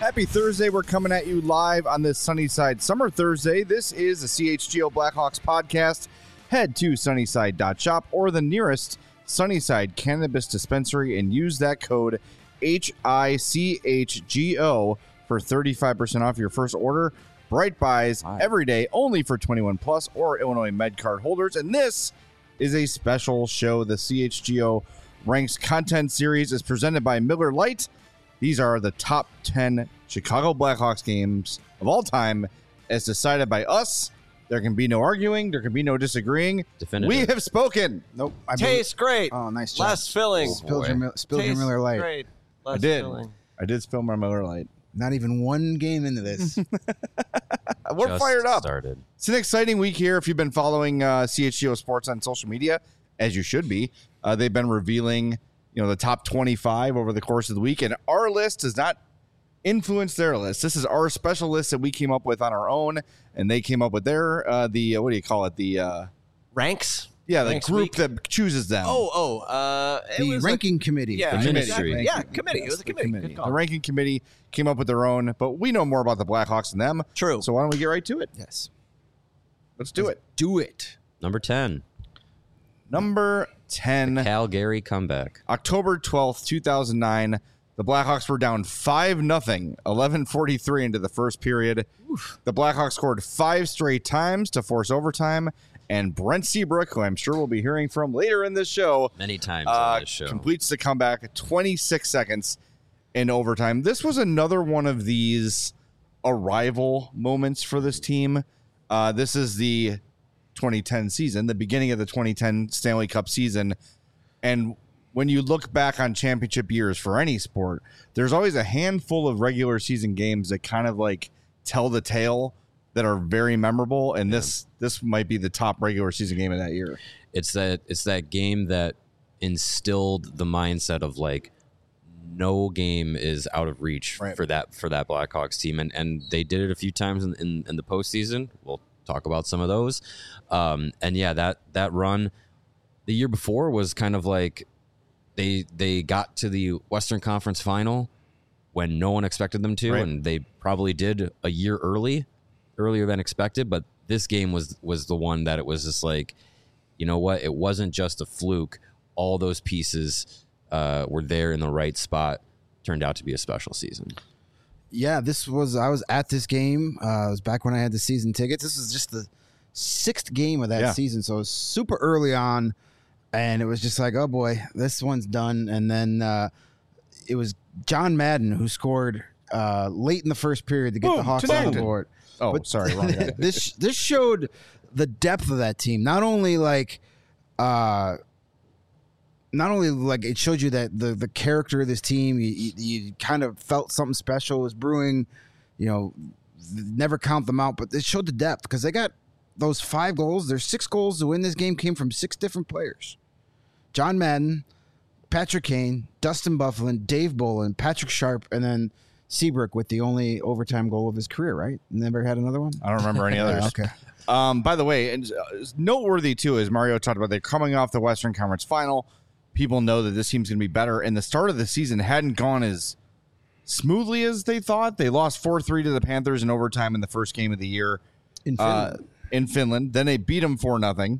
Happy Thursday. We're coming at you live on this Sunnyside Summer Thursday. This is the CHGO Blackhawks podcast. Head to sunnyside.shop or the nearest Sunnyside Cannabis Dispensary and use that code HICHGO for 35% off your first order. Bright buys every day, only for 21 plus or Illinois Med Card holders. And this is a special show. The CHGO Ranks content series is presented by Miller Lite. These are the top 10 Chicago Blackhawks games of all time as decided by us. There can be no arguing. There can be no disagreeing. Definitive. We have spoken. Nope. Tastes great. Oh, nice job. Less filling. Spilled your Miller Lite. Great. Less I did. filling. I did spill my Miller Lite. Not even one game into this. We're Just fired up. Started. It's an exciting week here. If you've been following CHGO Sports on social media, as you should be, they've been revealing, the top 25 over the course of the week, and our list does not influence their list. This is our special list that we came up with on our own, and they came up with their what do you call it? The Ranks? yeah, the Ranks group week? that chooses them. The it was ranking committee. Yeah, The exactly. ministry. Yeah, committee. It was a committee. Good call. The ranking committee came up with their own, but we know more about the Blackhawks than them. True. So why don't we get right to it? Yes. Let's do it. Do it. Number 10, Number 10. Calgary comeback. October 12th, 2009, the Blackhawks were down 5-0, 11:43 into the first period. The Blackhawks scored 5 straight times to force overtime, and Brent Seabrook, who I'm sure we'll be hearing from later in this show, Many times on this show. completes the comeback 26 seconds in overtime. This was another one of these arrival moments for this team. This is the 2010 season, the beginning of the 2010 Stanley Cup season. And when you look back on championship years for any sport, there's always a handful of regular season games that kind of like tell the tale that are very memorable. And this might be the top regular season game of that year. It's that game that instilled the mindset of like no game is out of reach Right. for that Blackhawks team, and they did it a few times in the postseason. We'll talk about some of those. And yeah, that run the year before was kind of like they got to the Western Conference Final when no one expected them to, Right. and they probably did a year earlier than expected. But this game was the one that it was just like, you know what? It wasn't just a fluke. All those pieces were there in the right spot. Turned out to be a special season. Yeah, I was at this game. It was back when I had the season tickets. This was just the 6th game of that season. So it was super early on. And it was just like, oh boy, this one's done. And then it was John Madden who scored late in the first period to get Boom, the Hawks to on the Madden. board. Oh, But sorry, wrong guy. this showed the depth of that team. Not only like it showed you that the character of this team, you kind of felt something special was brewing. Never count them out, but it showed the depth because they got those 5 goals. There's 6 goals to win this game came from 6 different players. John Madden, Patrick Kane, Dustin Byfuglien, Dave Bolin, Patrick Sharp, and then Seabrook with the only overtime goal of his career, right? Never had another one? I don't remember any others. Okay. By the way, and noteworthy too, as Mario talked about, they're coming off the Western Conference Final. People know that this team's going to be better, and the start of the season hadn't gone as smoothly as they thought. They lost 4-3 to the Panthers in overtime in the first game of the year In Finland. in Finland. Then they beat them 4-0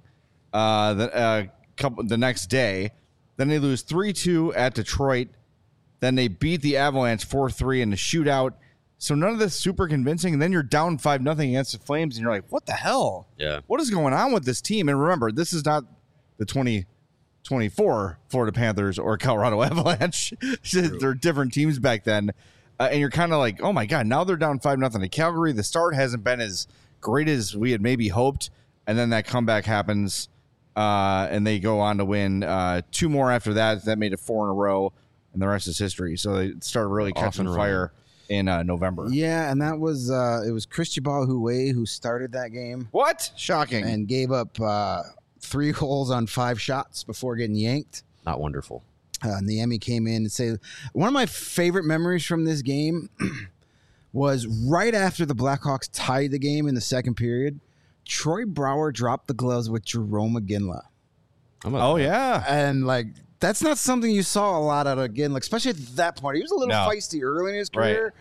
the next day. Then they lose 3-2 at Detroit. Then they beat the Avalanche 4-3 in the shootout. So none of this super convincing. And then you're down 5-0 against the Flames, and you're like, what the hell? Yeah. What is going on with this team? And remember, this is not the 2024 Florida Panthers or Colorado Avalanche. They're different teams back then. And you're kind of like, oh, my God, now they're down 5-0 to Calgary. The start hasn't been as great as we had maybe hoped. And then that comeback happens, and they go on to win 2 more after that. That made it 4 in a row, and the rest is history. So they started really catching fire in November. Yeah, and that was it was Cristobal Huet who started that game What? Shocking. and gave up 3 goals on 5 shots before getting yanked. Not wonderful. And the Emmy came in and said, one of my favorite memories from this game was right after the Blackhawks tied the game in the second period. Troy Brouwer dropped the gloves with Jerome McGinley. Oh, yeah. And like, that's not something you saw a lot out of McGinley, especially at that point. He was a little No. feisty early in his career,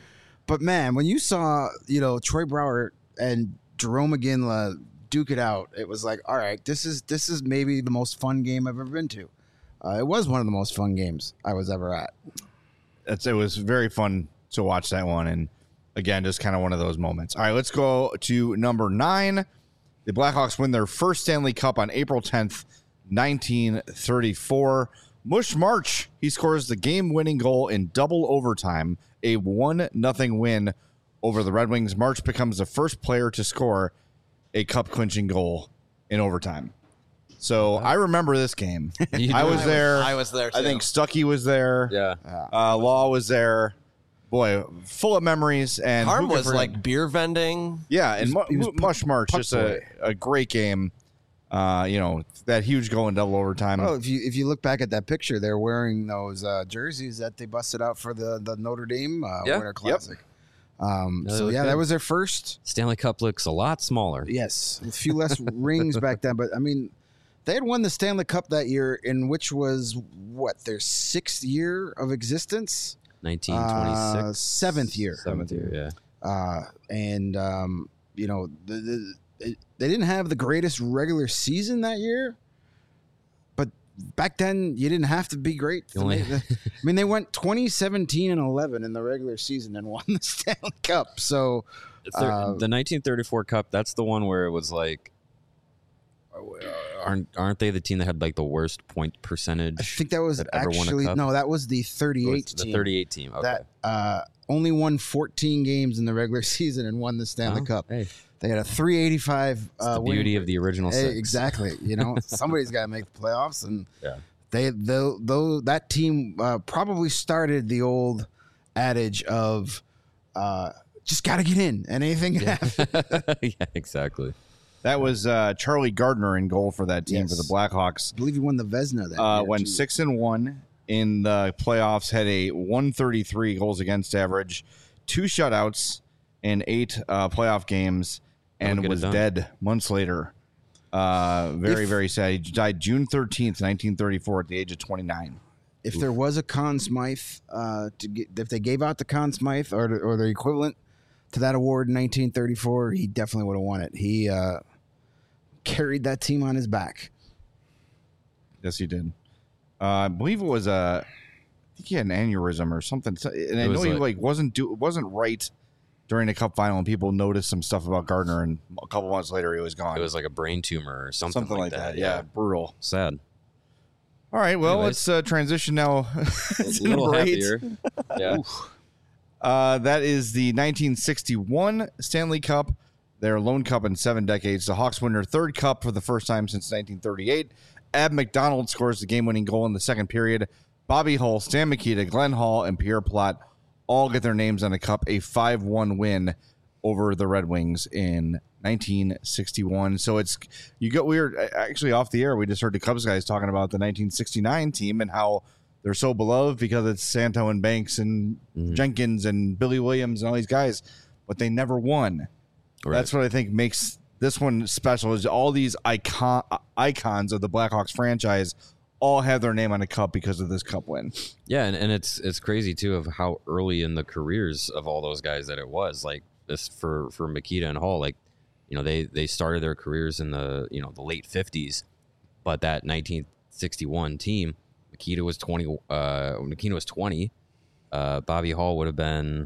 But man, when you saw, Troy Brouwer and Jerome McGinley duke it out, it was like, all right, this is maybe the most fun game I've ever been to. It was one of the most fun games I was ever at. It was very fun to watch that one, and again, just kind of one of those moments. All right, let's go to number 9. The Blackhawks win their first Stanley Cup on April 10th, 1934. Mush March, he scores the game-winning goal in double overtime, a 1-0 win over the Red Wings. March becomes the first player to score a cup-clinching goal in overtime. So I remember this game. I was there. I was there, too. I think Stuckey was there. Yeah. Law was there. Boy, full of memories. And Harm was like beer vending. Yeah, and Mush March, puck just boy. a great game. That huge goal in double overtime. Well, if you look back at that picture, they're wearing those jerseys that they busted out for the Notre Dame Winter Classic. That was their first. Stanley Cup looks a lot smaller. Yes, a few less rings back then, but I mean, they had won the Stanley Cup that year, in which was their 6th year of existence. 1926. 7th year. 7th year, yeah. They didn't have the greatest regular season that year, but back then you didn't have to be great. They went 20-17-11 in the regular season and won the Stanley Cup. So the 1934 Cup, that's the one where it was like, aren't they the team that had like the worst point percentage? I think that was actually that was the 38 team. The 38 team. Okay. That only won 14 games in the regular season and won the Stanley Cup. Hey. They had a 385. The beauty of the original 6. Exactly. Somebody's got to make the playoffs, and that team probably started the old adage of just got to get in, and anything can happen. Yeah, exactly. That was Charlie Gardner in goal for that team for the Blackhawks. I believe he won the Vezina that year. Went 6-1 in the playoffs, had a 133 goals against average, 2 shutouts in 8 playoff games, and was dead months later. Very sad. He died June 13th, 1934 at the age of 29. If there was a Conn Smythe, if they gave out the Conn Smythe or the equivalent to that award in 1934, he definitely would have won it. He carried that team on his back. Yes, he did. I believe it was I think he had an aneurysm or something. And I know he wasn't right during the Cup final, and people noticed some stuff about Gardner, and a couple months later he was gone. It was like a brain tumor or something like that. Yeah, brutal. Sad. All right, well, let's transition now. A little happier. Yeah. That is the 1961 Stanley Cup, their lone cup in 7 decades. The Hawks win their 3rd cup for the first time since 1938. Ab McDonald scores the game-winning goal in the second period. Bobby Hull, Stan Mikita, Glenn Hall, and Pierre Plot all get their names on the cup, a 5-1 win over the Red Wings in 1961. So we were actually off the air. We just heard the Cubs guys talking about the 1969 team and how they're so beloved because it's Santo and Banks and Jenkins and Billy Williams and all these guys, but they never won. Right. That's what I think makes this one special, is all these icons of the Blackhawks franchise all have their name on a cup because of this cup win. Yeah, and it's crazy too of how early in the careers of all those guys that it was. Like this for Mikita and Hall, like, they started their careers in the the late 50s, but that 1961 team, Mikita was 20. Mikita was 20. Bobby Hall would have been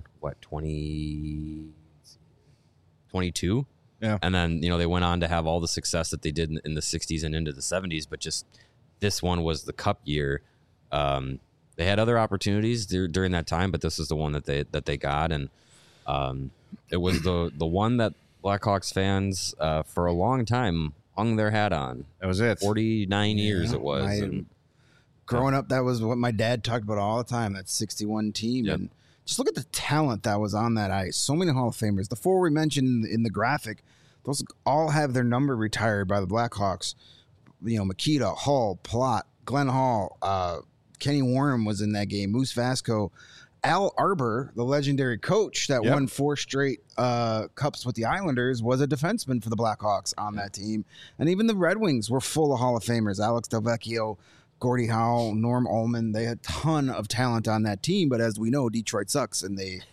22. Yeah, and then they went on to have all the success that they did in the 60s and into the 70s, but just this one was the cup year. They had other opportunities during that time, but this is the one that they got, and it was the one that Blackhawks fans for a long time hung their hat on. That was it. 49 years it was. Growing up, that was what my dad talked about all the time, that 61 team. Yep. And just look at the talent that was on that ice. So many Hall of Famers. The 4 we mentioned in the graphic, those all have their number retired by the Blackhawks. Mikita, Hall, Plot, Glenn Hall, Kenny Warren was in that game, Moose Vasco. Al Arbor, the legendary coach that won 4 straight cups with the Islanders, was a defenseman for the Blackhawks on that team. And even the Red Wings were full of Hall of Famers. Alex Delvecchio, Gordie Howe, Norm Ullman. They had a ton of talent on that team, but as we know, Detroit sucks, and they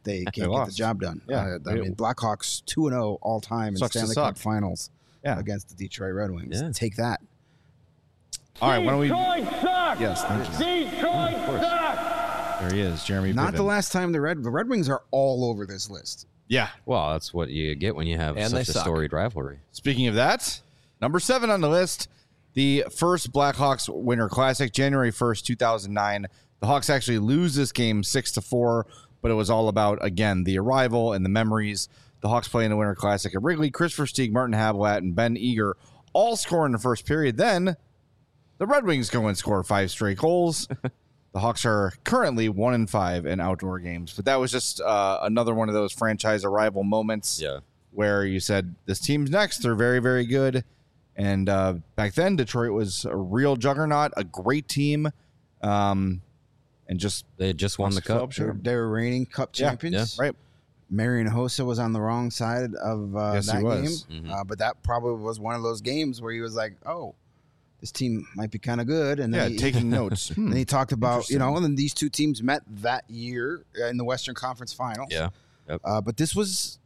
they can't get the lost. job done. Yeah. I mean, Blackhawks 2-0 all time in Sucks to Stanley suck. Cup Finals Yeah. against the Detroit Red Wings. Yeah. Take that. All right, why don't we? Detroit sucks! Yes, thank you. Detroit sucks! There he is, Jeremy. Not the Piven. last time the Red Wings are all over this list. Yeah. Well, that's what you get when you have And they such a suck. storied rivalry. Speaking of that, number 7 on the list, the first Blackhawks Winter Classic, January 1st, 2009. The Hawks actually lose this game 6-4, but it was all about, again, the arrival and the memories. The Hawks play in the Winter Classic at Wrigley. Chris Versteeg, Martin Havlat, and Ben Eager all score in the first period. Then the Red Wings go and score 5 straight goals. The Hawks are currently 1-5 in outdoor games, but that was just another one of those franchise arrival moments. Yeah. Where you said this team's next. They're very, very good. And back then, Detroit was a real juggernaut, a great team, and just They had just won the cup. Sure. They were reigning Cup champions. Right. Marian Hossa was on the wrong side of Yes, that he was. game. But that probably was one of those games where he was like, oh, this team might be kind of good. And Yeah, then he, taking notes. and he talked about, Interesting. and then these two teams met that year in the Western Conference Finals. Yeah. But this was,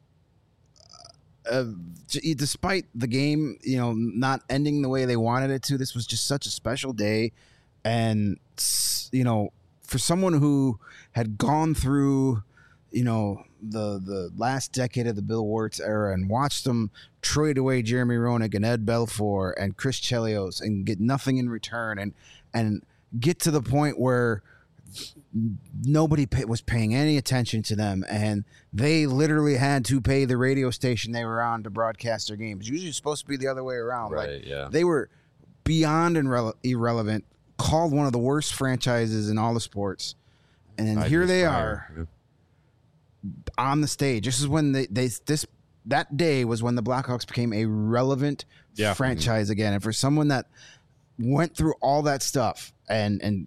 despite the game, not ending the way they wanted it to, this was just such a special day. And, for someone who had gone through, the last decade of the Bill Wirtz era and watched them trade away Jeremy Roenick and Ed Belfour and Chris Chelios and get nothing in return and get to the point where nobody was paying any attention to them, and they literally had to pay the radio station they were on to broadcast their games. Usually it's supposed to be the other way around. Right, yeah. They were beyond irrelevant, called one of the worst franchises in all the sports, and then 5 here years they prior. are on the stage. This is when that day was when the Blackhawks became a relevant franchise again. And for someone that went through all that stuff and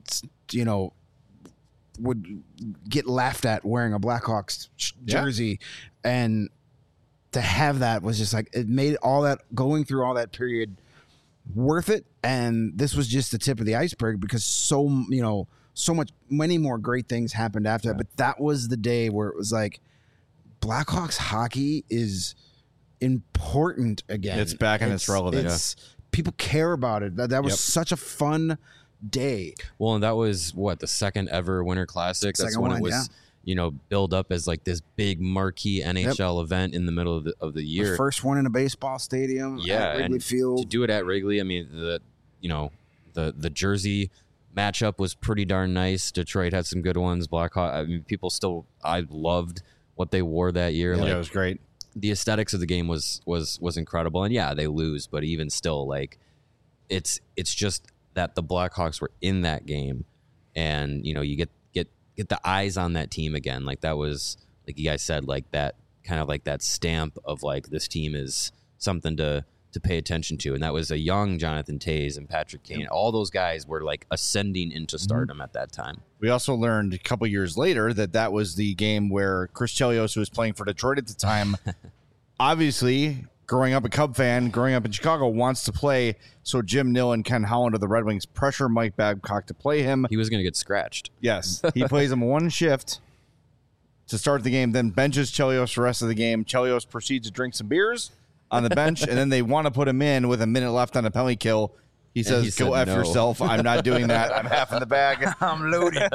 would get laughed at wearing a Blackhawks jersey, and to have that was just like, it made all that, going through all that period, worth it. And this was just the tip of the iceberg, because many more great things happened after that. But that was the day where it was like, Blackhawks hockey is important again. It's back and it's relevant. People care about it. That was Yep. such a fun day. Well, and that was the second ever Winter Classic. That's Second when one, it was, built up as like this big marquee NHL event in the middle of the year. The first one in a baseball stadium. Yeah, at Wrigley and Field. to do it at Wrigley, I mean, the jersey matchup was pretty darn nice. Detroit had some good ones. Blackhawk, I mean, I loved what they wore that year. Yeah, it was great. The aesthetics of the game was incredible. And yeah, they lose, but even still, like, it's just that the Blackhawks were in that game, and you get the eyes on that team again. Like, that was, like you guys said, like that kind of like that stamp of like, this team is something to pay attention to. And that was a young Jonathan Toews and Patrick Kane. All those guys were like ascending into stardom at that time. We also learned a couple years later that was the game where Chris Chelios, who was playing for Detroit at the time, obviously, growing up a Cub fan, growing up in Chicago, wants to play. So Jim Nill and Ken Holland of the Red Wings pressure Mike Babcock to play him. He was going to get scratched. Yes. He plays him one shift to start the game, then benches Chelios the rest of the game. Chelios proceeds to drink some beers on the bench, and then they want to put him in with a minute left on a penalty kill. He says, he said "Go F no." yourself. I'm not doing that. I'm half in the bag. I'm loaded.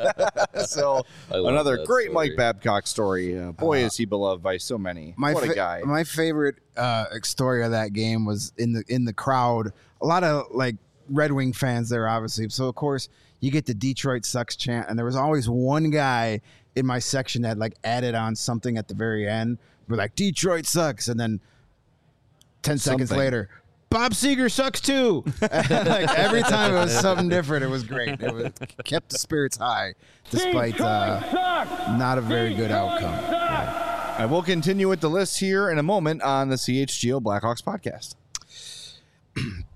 So I love another that great story. Mike Babcock story. Boy, is he beloved by so many. What a guy. My favorite story of that game was in the crowd. A lot of like Red Wing fans there, obviously. So of course you get the Detroit sucks chant, and there was always one guy in my section that like added on something at the very end. We're like, Detroit sucks, and then 10 seconds Something. later, Bob Seger sucks too. Like every time it was something different. It was great. It kept the spirits high despite not a very good outcome. I will continue with the list here in a moment on the CHGO Blackhawks podcast.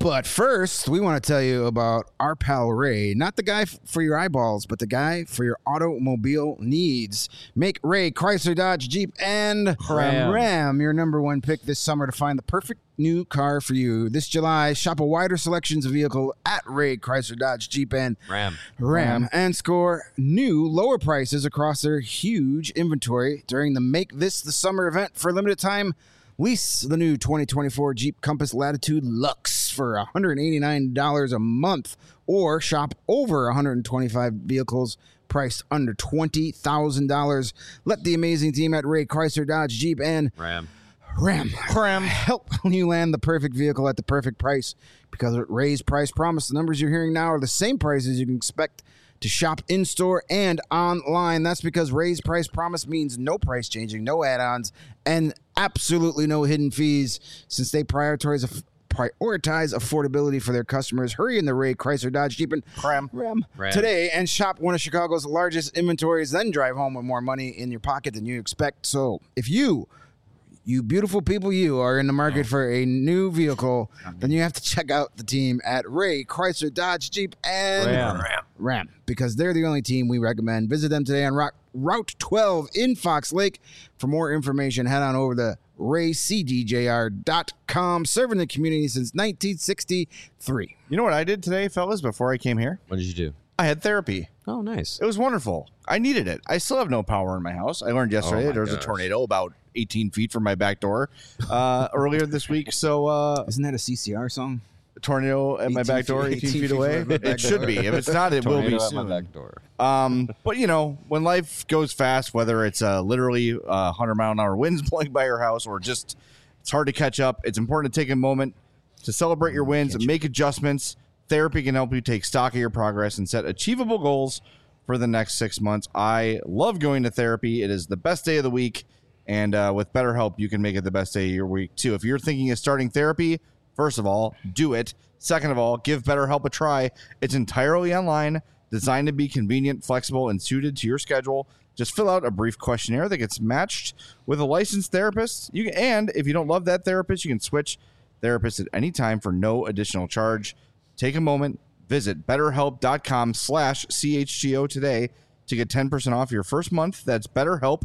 But first, we want to tell you about our pal Ray, not the guy for your eyeballs, but the guy for your automobile needs. Make Ray Chrysler, Dodge, Jeep, and Ram your number one pick this summer to find the perfect new car for you. This July, shop a wider selections of vehicle at Ray Chrysler, Dodge, Jeep, and Ram, and score new lower prices across their huge inventory during the Make This the Summer event. For a limited time, lease the new 2024 Jeep Compass Latitude Luxe for $189 a month, or shop over 125 vehicles priced under $20,000. Let the amazing team at Ray Chrysler, Dodge, Jeep, and Ram help you land the perfect vehicle at the perfect price, because at Ray's Price Promise, the numbers you're hearing now are the same prices you can expect to shop in-store and online. That's because Ray's Price Promise means no price changing, no add-ons, and absolutely no hidden fees, since they prioritize affordability for their customers. Hurry in the Ray Chrysler, Dodge, Jeep, and Ram today and shop one of Chicago's largest inventories, then drive home with more money in your pocket than you expect. So if you beautiful people, you are in the market for a new vehicle, then you have to check out the team at Ray Chrysler, Dodge, Jeep, and Ram, because they're the only team we recommend. Visit them today on Route 12 in Fox Lake. For more information, head on over to raycdjr.com, serving the community since 1963. You know what I did today, fellas, before I came here? What did you do? I had therapy. Oh, nice. It was wonderful. I needed it. I still have no power in my house. I learned yesterday there was a tornado about 18 feet from my back door earlier this week. So isn't that a CCR song? A tornado at my back door, 18 feet away. It should be. If it's not, it will be soon. My back door. But you know, when life goes fast, whether it's literally 100-mile-an-hour winds blowing by your house, or just it's hard to catch up, it's important to take a moment to celebrate your wins and make adjustments. Therapy can help you take stock of your progress and set achievable goals for the next 6 months. I love going to therapy. It is the best day of the week. And with BetterHelp, you can make it the best day of your week, too. If you're thinking of starting therapy, first of all, do it. Second of all, give BetterHelp a try. It's entirely online, designed to be convenient, flexible, and suited to your schedule. Just fill out a brief questionnaire that gets matched with a licensed therapist. And if you don't love that therapist, you can switch therapists at any time for no additional charge. Take a moment, visit BetterHelp.com/CHGO today to get 10% off your first month. That's BetterHelp,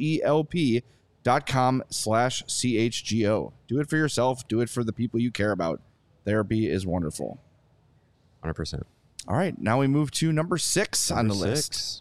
HELP.com/CHGO. Do it for yourself. Do it for the people you care about. Therapy is wonderful. 100%. All right, now we move to number 6 on the list.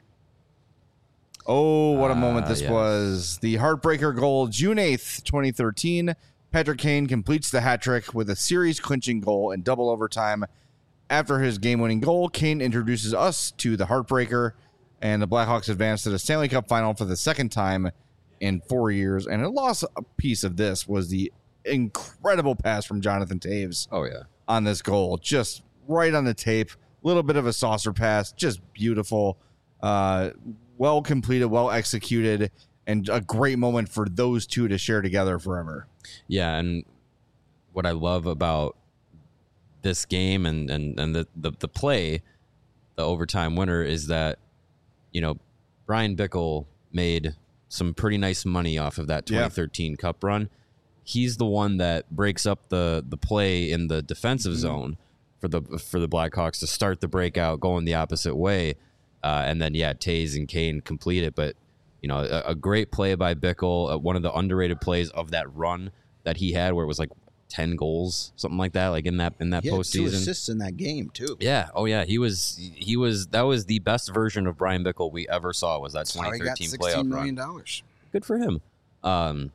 Oh, what a moment this was. The heartbreaker goal, June 8th, 2013. Patrick Kane completes the hat trick with a series-clinching goal in double overtime. After his game-winning goal, Kane introduces us to the heartbreaker, and the Blackhawks advance to the Stanley Cup final for the second time in 4 years. And a lost piece of this was the incredible pass from Jonathan Toews. Oh, yeah. On this goal, just right on the tape. A little bit of a saucer pass, just beautiful. Well completed, well executed, and a great moment for those two to share together forever. Yeah, and what I love about this game and the play, the overtime winner, is that, you know, Brian Bickle made some pretty nice money off of that 2013 Cup run. He's the one that breaks up the play in the defensive zone for the Blackhawks to start the breakout going the opposite way, and then Toews and Kane complete it. But you know, a great play by Bickle, one of the underrated plays of that run that he had, where it was like 10 goals, something like that, like in that postseason. 2 assists in that game too. Yeah. Oh yeah. He was. That was the best version of Brian Bickle we ever saw. Was that 2013 playoff $16 million. run? Good for him. And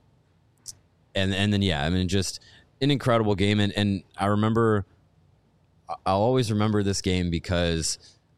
then I mean, just an incredible game. And I remember, I'll always remember this game because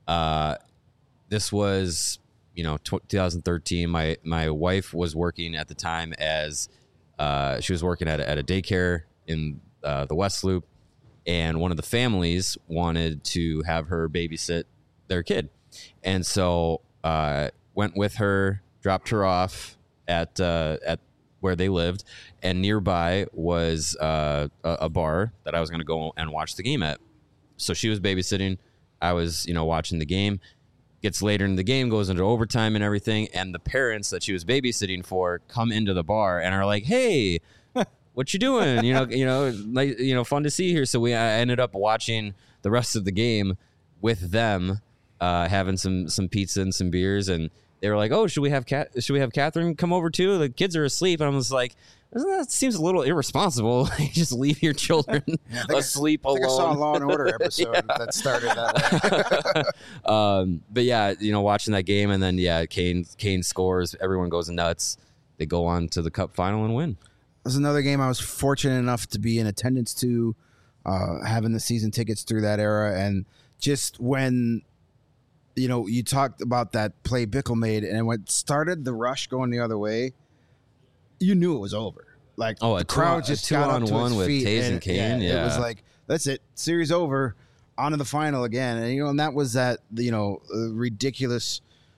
this was, you know, 2013. My wife was working at the time as she was working at a daycare in the West Loop, and one of the families wanted to have her babysit their kid, and so went with her, dropped her off at where they lived, and nearby was a bar that I was going to go and watch the game at. So she was babysitting. I was, you know, watching the game. Gets later in the game, goes into overtime and everything, and the parents that she was babysitting for come into the bar and are like, "Hey, what you doing? Fun to see here. So I ended up watching the rest of the game with them, having some pizza and some beers, and they were like, "Oh, should we have Catherine come over too? The kids are asleep." And I was like, "That seems a little irresponsible. Just leave your children asleep alone." I saw a Law and Order episode that started that way. But yeah, watching that game, and then Kane scores, everyone goes nuts. They go on to the Cup final and win. There's another game I was fortunate enough to be in attendance to, having the season tickets through that era, and just when you talked about that play Bickle made, and when it started the rush going the other way, you knew it was over. Like the crowd just got up to its with feet, Taze and Kane. It was like, that's it, series over, on to the final again. And and that was that ridiculous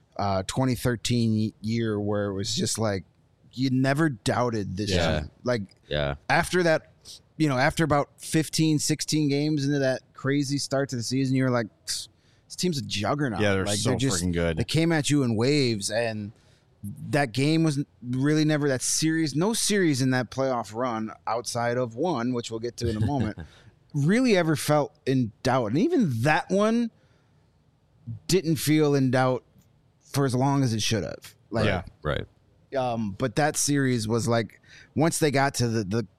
2013 year where it was just like you never doubted this team. Like after that, after about 15, 16 games into that crazy start to the season, you're like, this team's a juggernaut. Yeah, they're like, so freaking good. They came at you in waves, and that game was really never that series. No series in that playoff run outside of one, which we'll get to in a moment, really ever felt in doubt. And even that one didn't feel in doubt for as long as it should have. Like, right. But that series was like, once they got to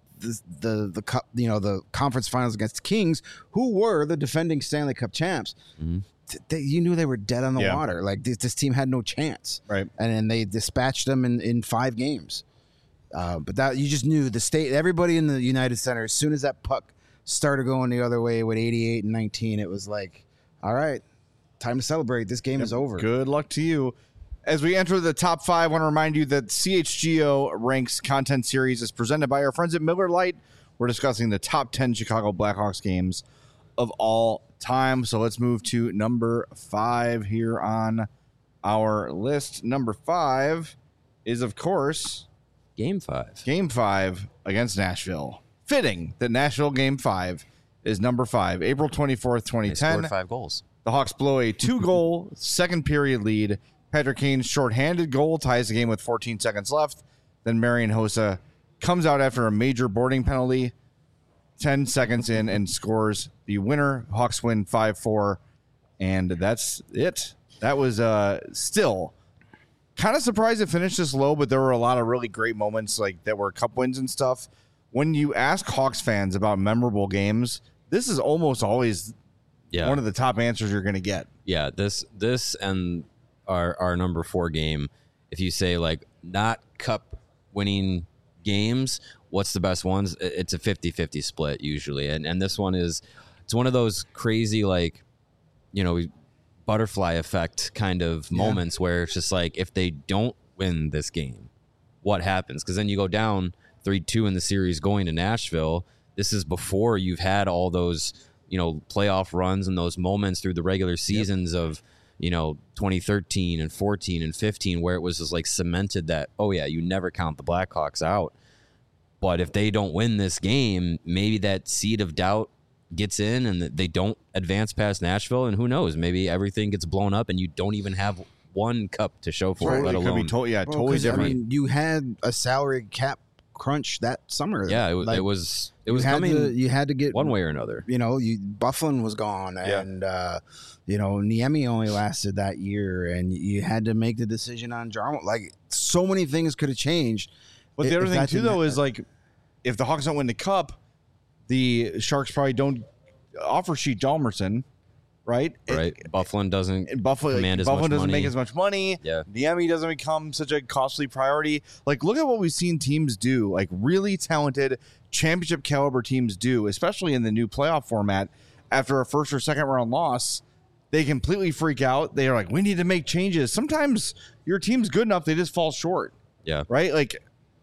the cup, the conference finals against the Kings, who were the defending Stanley Cup champs. Mm-hmm. You knew they were dead on the water. Like this team had no chance, right? And then they dispatched them in 5 games. But that you just knew everybody in the United Center, as soon as that puck started going the other way with 88 and 19, it was like, all right, time to celebrate. This game is over. Good luck to you. As we enter the top 5, I want to remind you that CHGO Ranks content series is presented by our friends at Miller Lite. We're discussing the top 10 Chicago Blackhawks games of all time. So let's move to number 5 here on our list. Number 5 is, of course, Game 5. Game 5 against Nashville. Fitting that Nashville Game 5 is number 5. April 24th, 2010. They scored 5 goals. The Hawks blow a 2-goal second period lead. Patrick Kane's shorthanded goal ties the game with 14 seconds left. Then Marian Hossa comes out after a major boarding penalty 10 seconds in and scores the winner. Hawks win 5-4, and that's it. That was still kind of surprised it finished this low, but there were a lot of really great moments like that were cup wins and stuff. When you ask Hawks fans about memorable games, this is almost always one of the top answers you're going to get. Yeah, this and our number 4 game, if you say like not cup winning games, what's the best ones? It's a 50-50 split usually. And this one it's one of those crazy, like, butterfly effect kind of moments where it's just like, if they don't win this game, what happens? Because then you go down 3-2 in the series going to Nashville. This is before you've had all those, playoff runs and those moments through the regular seasons of, 2013 and 14 and 15, where it was just like cemented that, oh yeah, you never count the Blackhawks out. But if they don't win this game, maybe that seed of doubt gets in and they don't advance past Nashville. And who knows, maybe everything gets blown up and you don't even have one cup to show for it, let alone. Totally different. I mean, you had a salary cap crunch that summer. Yeah, it was coming. You had to get one way or another. Bufflin was gone, and Niemi only lasted that year, and you had to make the decision on Jarmo. Like, so many things could have changed. But the other thing too, though, is like, if the Hawks don't win the cup, the Sharks probably don't offer sheet Hjalmarsson, right? Right. Bufflin doesn't command as much Bufflin doesn't money. make as much money. Yeah. Niemi doesn't become such a costly priority. Like, look at what we've seen teams do, like really talented championship caliber teams do, especially in the new playoff format. After a first or second round loss, they completely freak out. They are like, we need to make changes. Sometimes your team's good enough, they just fall short. Yeah. Right? Like,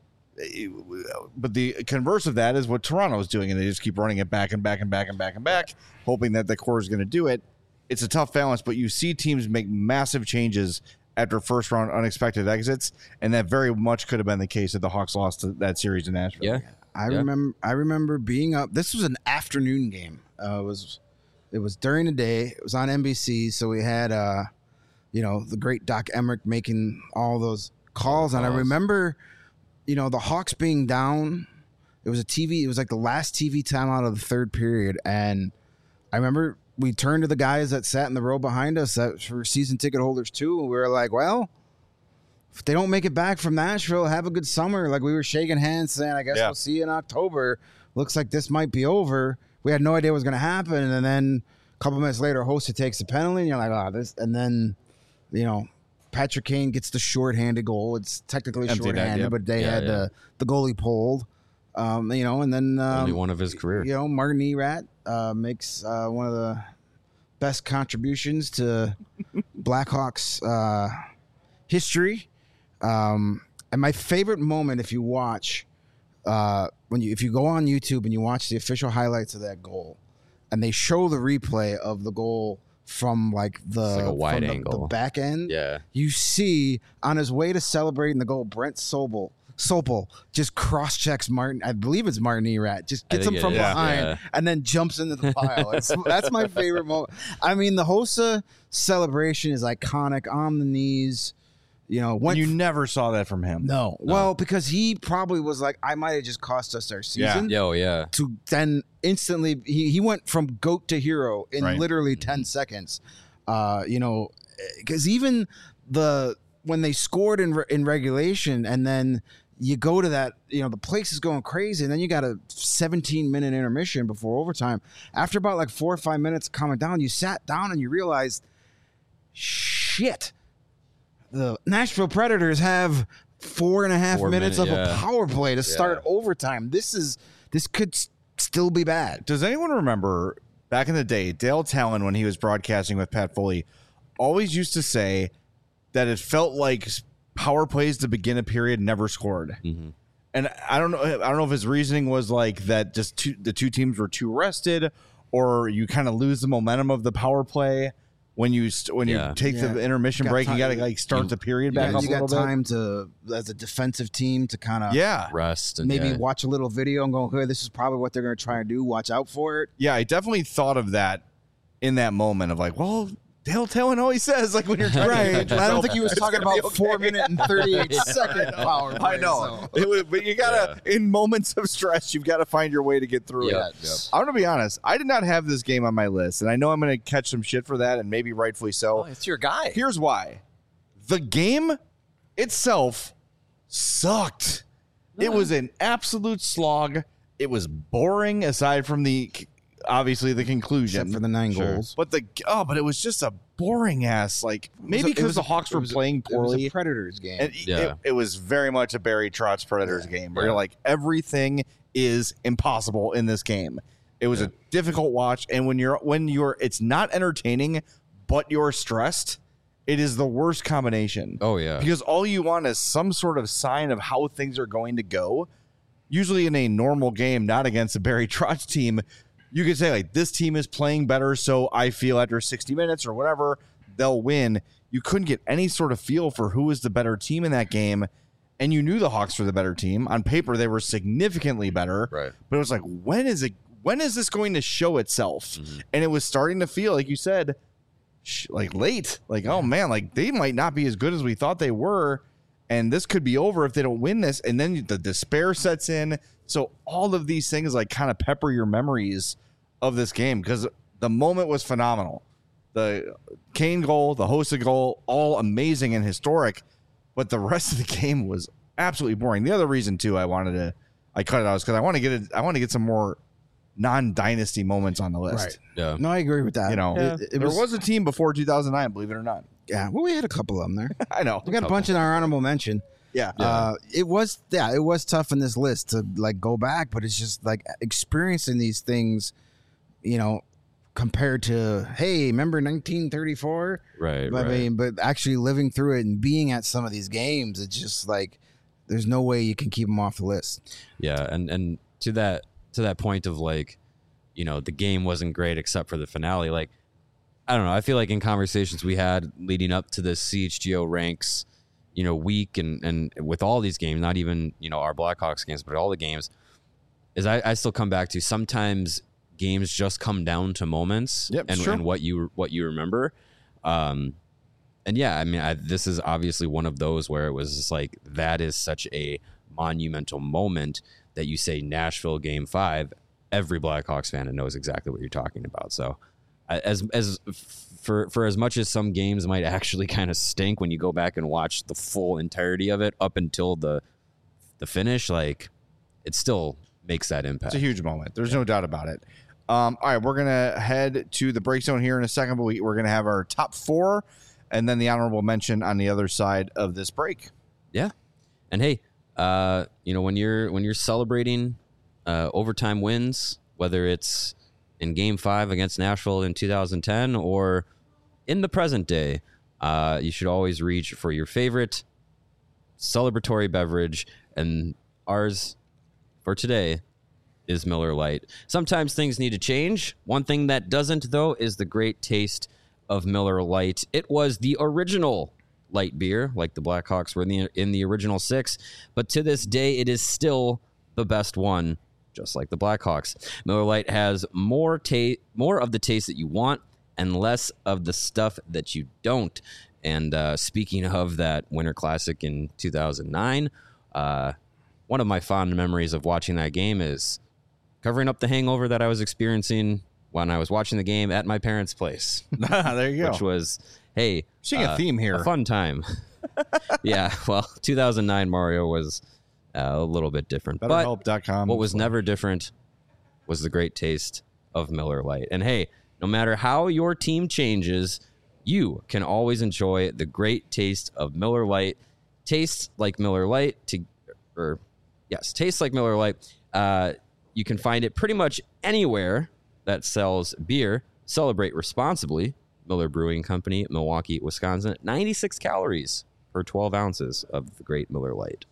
but the converse of that is what Toronto is doing, and they just keep running it back and back and back and back and back, hoping that the core is going to do it. It's a tough balance, but you see teams make massive changes after first round unexpected exits, and that very much could have been the case if the Hawks lost to that series in Nashville. Yeah. I remember being up. This was an afternoon game. It was during the day. It was on NBC, so we had the great Doc Emmerich making all those calls. And I remember, the Hawks being down It was It was like the last TV timeout of the third period, and I remember we turned to the guys that sat in the row behind us that were season ticket holders too, and we were like, "Well, if they don't make it back from Nashville, have a good summer." Like we were shaking hands, saying, "I guess we'll see you in October." Looks like this might be over. We had no idea what was going to happen, and then a couple minutes later, Hossa takes a penalty, and you're like, "Oh, this!" And then, Patrick Kane gets the shorthanded goal. It's technically Empty net, shorthanded, yep. but they had the goalie pulled. And then Only one of his career. Martin Erat makes one of the best contributions to Blackhawks history. And my favorite moment, if you watch, if you go on YouTube and you watch the official highlights of that goal, and they show the replay of the goal from like a wide from angle. the back end, Yeah. you see on his way to celebrating the goal, Brent Sopel just cross checks Martin. I believe it's Martin Erat. Just gets him from behind and then jumps into the pile. That's my favorite moment. I mean, the Hossa celebration is iconic. On the knees, When you never saw that from him. No. Well, because he probably was like, I might have just cost us our season. Yeah. To then instantly, he went from goat to hero in literally 10 seconds. Because even when they scored in regulation, and then you go to that, the place is going crazy, and then you got a 17-minute intermission before overtime. After about like 4 or 5 minutes calming down, you sat down and you realized, shit. The Nashville Predators have 4.5 minutes of a power play to start overtime. This could still be bad. Does anyone remember back in the day, Dale Talon, when he was broadcasting with Pat Foley, always used to say that it felt like power plays to begin a period never scored. Mm-hmm. And I don't know if his reasoning was like that just the two teams were too rested, or you kind of lose the momentum of the power play. When you take the intermission break, you got to like start the period back up a little bit. You got time to, as a defensive team, to kind of rest and maybe watch a little video and go, "Hey, this is probably what they're going to try and do. Watch out for it." Yeah, I definitely thought of that in that moment of like, well, Dale Talon always says like when you're trying right. I don't think he was talking about 4 minute and 38 second power play. I know, but you gotta in moments of stress, you've got to find your way to get through it. I'm gonna be honest. I did not have this game on my list, and I know I'm gonna catch some shit for that, and maybe rightfully so. Oh, it's your guy. Here's why: the game itself sucked. It was an absolute slog. It was boring, aside from obviously the conclusion, except for the 9 goals. But but it was just a boring ass, like maybe because the Hawks were playing poorly. It was a Predators game. And it was very much a Barry Trotz Predators game where you're like, everything is impossible in this game. It was a difficult watch, and when you're it's not entertaining, but you're stressed, it is the worst combination. Oh yeah. Because all you want is some sort of sign of how things are going to go. Usually in a normal game, not against a Barry Trotz team, you could say, like, this team is playing better, so I feel after 60 minutes or whatever, they'll win. You couldn't get any sort of feel for who was the better team in that game, and you knew the Hawks were the better team. On paper, they were significantly better. Right. But it was like, when is this going to show itself? Mm-hmm. And it was starting to feel, like you said, like late. Like, oh, man, like they might not be as good as we thought they were, and this could be over if they don't win this. And then the despair sets in. So all of these things like kind of pepper your memories of this game, because the moment was phenomenal. The Kane goal, the Hossa goal, all amazing and historic, but the rest of the game was absolutely boring. The other reason too I cut it out is because I want to get some more non-dynasty moments on the list. Right. Yeah. No, I agree with that. There was a team before 2009, believe it or not. Yeah, well, we had a couple of them there. I know. We got a bunch in our honorable mention. Yeah. It was tough in this list to like go back, but it's just like experiencing these things, compared to, hey, remember 1934? Right. I mean, but actually living through it and being at some of these games, it's just like there's no way you can keep them off the list. Yeah, and to that point of like, the game wasn't great except for the finale. Like, I don't know. I feel like in conversations we had leading up to this CHGO ranks, week and with all these games, not even, our Blackhawks games, but all the games, is I still come back to sometimes games just come down to moments and what you remember. And yeah, I mean, this is obviously one of those where it was just like, that is such a monumental moment that you say Nashville Game 5, every Blackhawks fan knows exactly what you're talking about. So for as much as some games might actually kind of stink when you go back and watch the full entirety of it up until the finish, like it still makes that impact. It's a huge moment. There's no doubt about it. All right, we're going to head to the break zone here in a second, but we're going to have our top 4 and then the honorable mention on the other side of this break. Yeah. And hey, when you're celebrating overtime wins, whether it's in Game 5 against Nashville in 2010 or in the present day, you should always reach for your favorite celebratory beverage, and ours for today is Miller Lite. Sometimes things need to change. One thing that doesn't, though, is the great taste of Miller Lite. It was the original light beer, like the Blackhawks were in the original 6, but to this day, it is still the best one, just like the Blackhawks. Miller Lite has more of the taste that you want and less of the stuff that you don't. And speaking of that Winter Classic in 2009, one of my fond memories of watching that game is covering up the hangover that I was experiencing when I was watching the game at my parents' place. There you go. Which was, hey, seeing a theme here. A fun time. Yeah, well, 2009 Mario was a little bit different. BetterHelp.com. What was never different was the great taste of Miller Lite. And hey, no matter how your team changes, you can always enjoy the great taste of Miller Lite. Tastes like Miller Lite. Tastes like Miller Lite. You can find it pretty much anywhere that sells beer. Celebrate responsibly. Miller Brewing Company, Milwaukee, Wisconsin. 96 calories per 12 ounces of the great Miller Lite.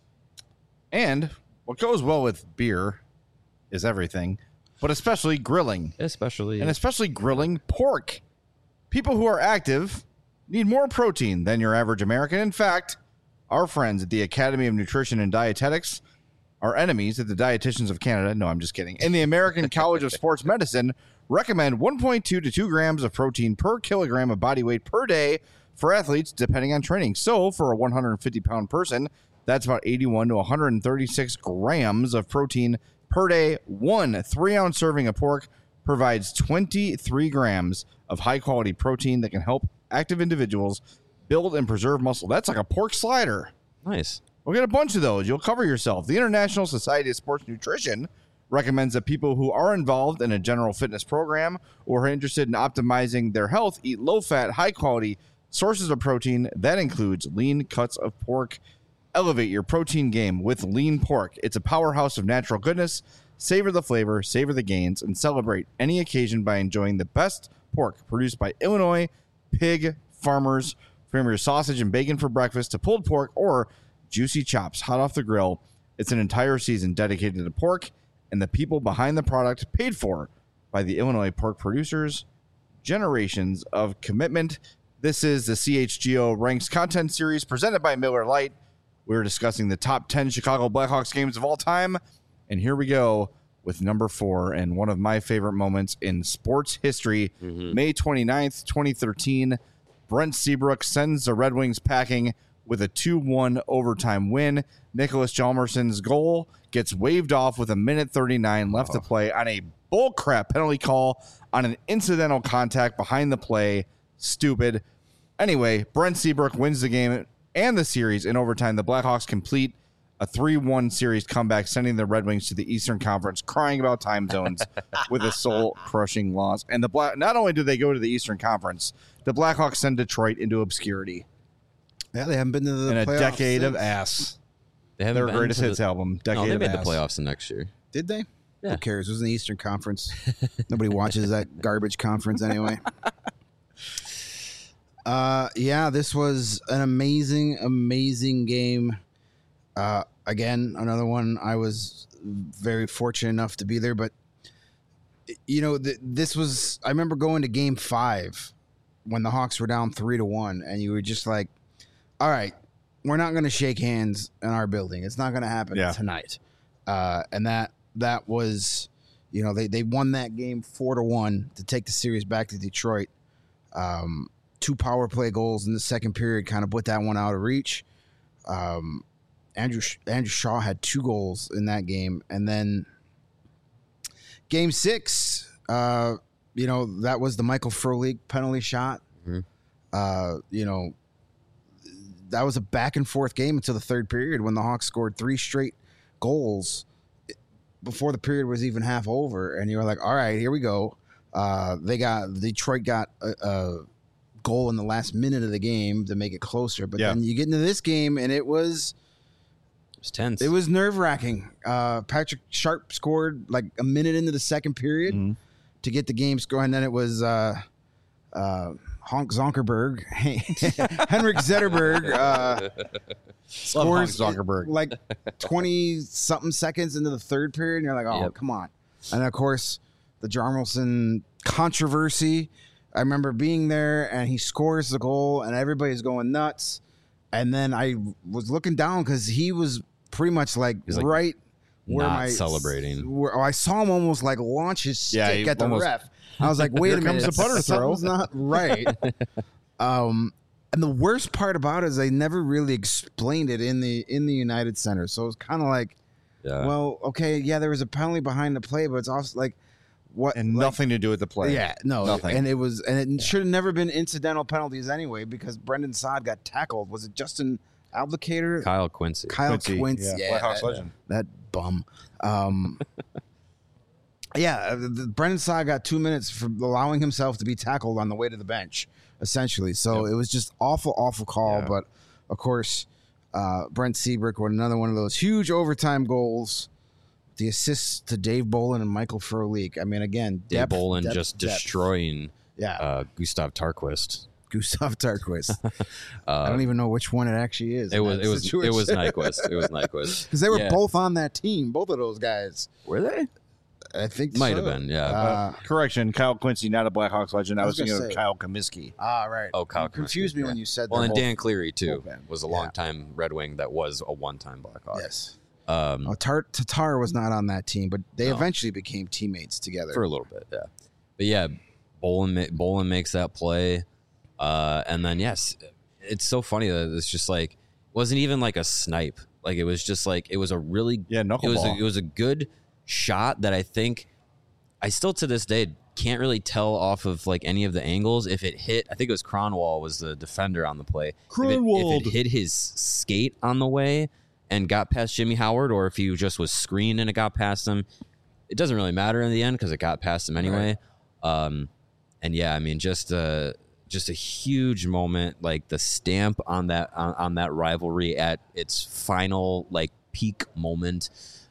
And what goes well with beer is everything, but especially grilling. Especially grilling pork. People who are active need more protein than your average American. In fact, our friends at the Academy of Nutrition and Dietetics, our enemies at the Dietitians of Canada, no, I'm just kidding, and the American College of Sports Medicine recommend 1.2 to 2 grams of protein per kilogram of body weight per day for athletes, depending on training. So for a 150-pound person, that's about 81 to 136 grams of protein per day. 1 3-ounce serving of pork provides 23 grams of high-quality protein that can help active individuals build and preserve muscle. That's like a pork slider. Nice. We'll get a bunch of those. You'll cover yourself. The International Society of Sports Nutrition recommends that people who are involved in a general fitness program or are interested in optimizing their health eat low-fat, high-quality sources of protein. That includes lean cuts of pork. Elevate your protein game with lean pork. It's a powerhouse of natural goodness. Savor the flavor, savor the gains, and celebrate any occasion by enjoying the best pork produced by Illinois pig farmers. From your sausage and bacon for breakfast to pulled pork or juicy chops hot off the grill, it's an entire season dedicated to pork and the people behind the product, paid for by the Illinois pork producers. Generations of commitment. This is the CHGO Ranks content series presented by Miller Lite. We're discussing the top 10 Chicago Blackhawks games of all time. And here we go with number 4 and one of my favorite moments in sports history. May 29th, 2013, Brent Seabrook sends the Red Wings packing with a 2-1 overtime win. Nicholas Hjalmarsson's goal gets waved off with 1:39 left to play on a bullcrap penalty call on an incidental contact behind the play. Stupid. Anyway, Brent Seabrook wins the game and the series in overtime. The Blackhawks complete a 3-1 series comeback, sending the Red Wings to the Eastern Conference, crying about time zones with a soul-crushing loss. And not only do they go to the Eastern Conference, the Blackhawks send Detroit into obscurity. Yeah, they haven't been to the in a playoffs decade since. of ass. They haven't Their been greatest to hits album, Decade they of made Ass. the playoffs the next year. Did they? Yeah. Who cares? It was in the Eastern Conference. Nobody watches that garbage conference anyway. Yeah, this was an amazing, amazing game. Again, another one I was very fortunate enough to be there. But, this was, I remember going to game 5 when the Hawks were down 3-1, and you were just like, all right, we're not going to shake hands in our building. It's not going to happen tonight. And that was, they won that game 4-1 to take the series back to Detroit. 2 power play goals in the second period kind of put that one out of reach. Andrew Shaw had 2 goals in that game, and then Game 6, that was the Michael Frolik penalty shot. Mm-hmm. That was a back and forth game until the third period when the Hawks scored 3 straight goals before the period was even half over, and you were like, all right, here we go. Detroit got a goal in the last minute of the game to make it closer, but then you get into this game and it was tense. It was nerve-wracking. Patrick Sharp scored like a minute into the second period to get the game score, and then it was Honk Zonkerberg, Henrik Zetterberg scores like 20-something seconds into the third period, and you're like, oh, come on. And, of course, the Jarmelson controversy. I remember being there, and he scores the goal, and everybody's going nuts. And then I was looking down because he was pretty much like right where not celebrating. I saw him almost like launch his stick at the ref. I was like, wait a minute, comes the putter throw. Something's not right. And the worst part about it is they never really explained it in the United Center. So it was kind of like, well, okay, there was a penalty behind the play, but it's also like what and nothing to do with the play. Yeah, no, nothing. And it should have never been incidental penalties anyway because Brendan Saad got tackled. Was it Justin Albucator? Kyle Quincy. Quincy. Yeah, Blackhawks legend. That bum. Brendan Saad got 2 minutes for allowing himself to be tackled on the way to the bench, essentially. So it was just awful call. Yeah. But, of course, Brent Seabrook with another one of those huge overtime goals. The assists to Dave Bolin and Michael Frolik. I mean, again, Dave Bolin just destroying Gustav Tarquist. Gustav Tarquist. I don't even know which one it actually is. It was Nyquist. It was Nyquist. Because they were both on that team, both of those guys. Were they? I think might have been, yeah. Correction, Kyle Quincy, not a Blackhawks legend. I was thinking of Kyle Comiskey. Ah, right. Oh, Kyle confused me when you said that. Well, and Dan Cleary, too, was a long-time Red Wing that was a one-time Blackhawk. Yes. Tatar was not on that team, but they eventually became teammates together. For a little bit, yeah. But, yeah, Bolin makes that play. And then, yes, it's so funny that it's just like, it wasn't even like a snipe. Like, it was just like, it was a really, knuckleball. It was a good shot that I think I still to this day can't really tell off of like any of the angles if it hit. I think it was Cronwall was the defender on the play. If it hit his skate on the way and got past Jimmy Howard, or if he just was screened and it got past him, it doesn't really matter in the end because it got past him anyway. Right. And yeah, I mean, just a huge moment, like the stamp on that rivalry at its final like peak moment.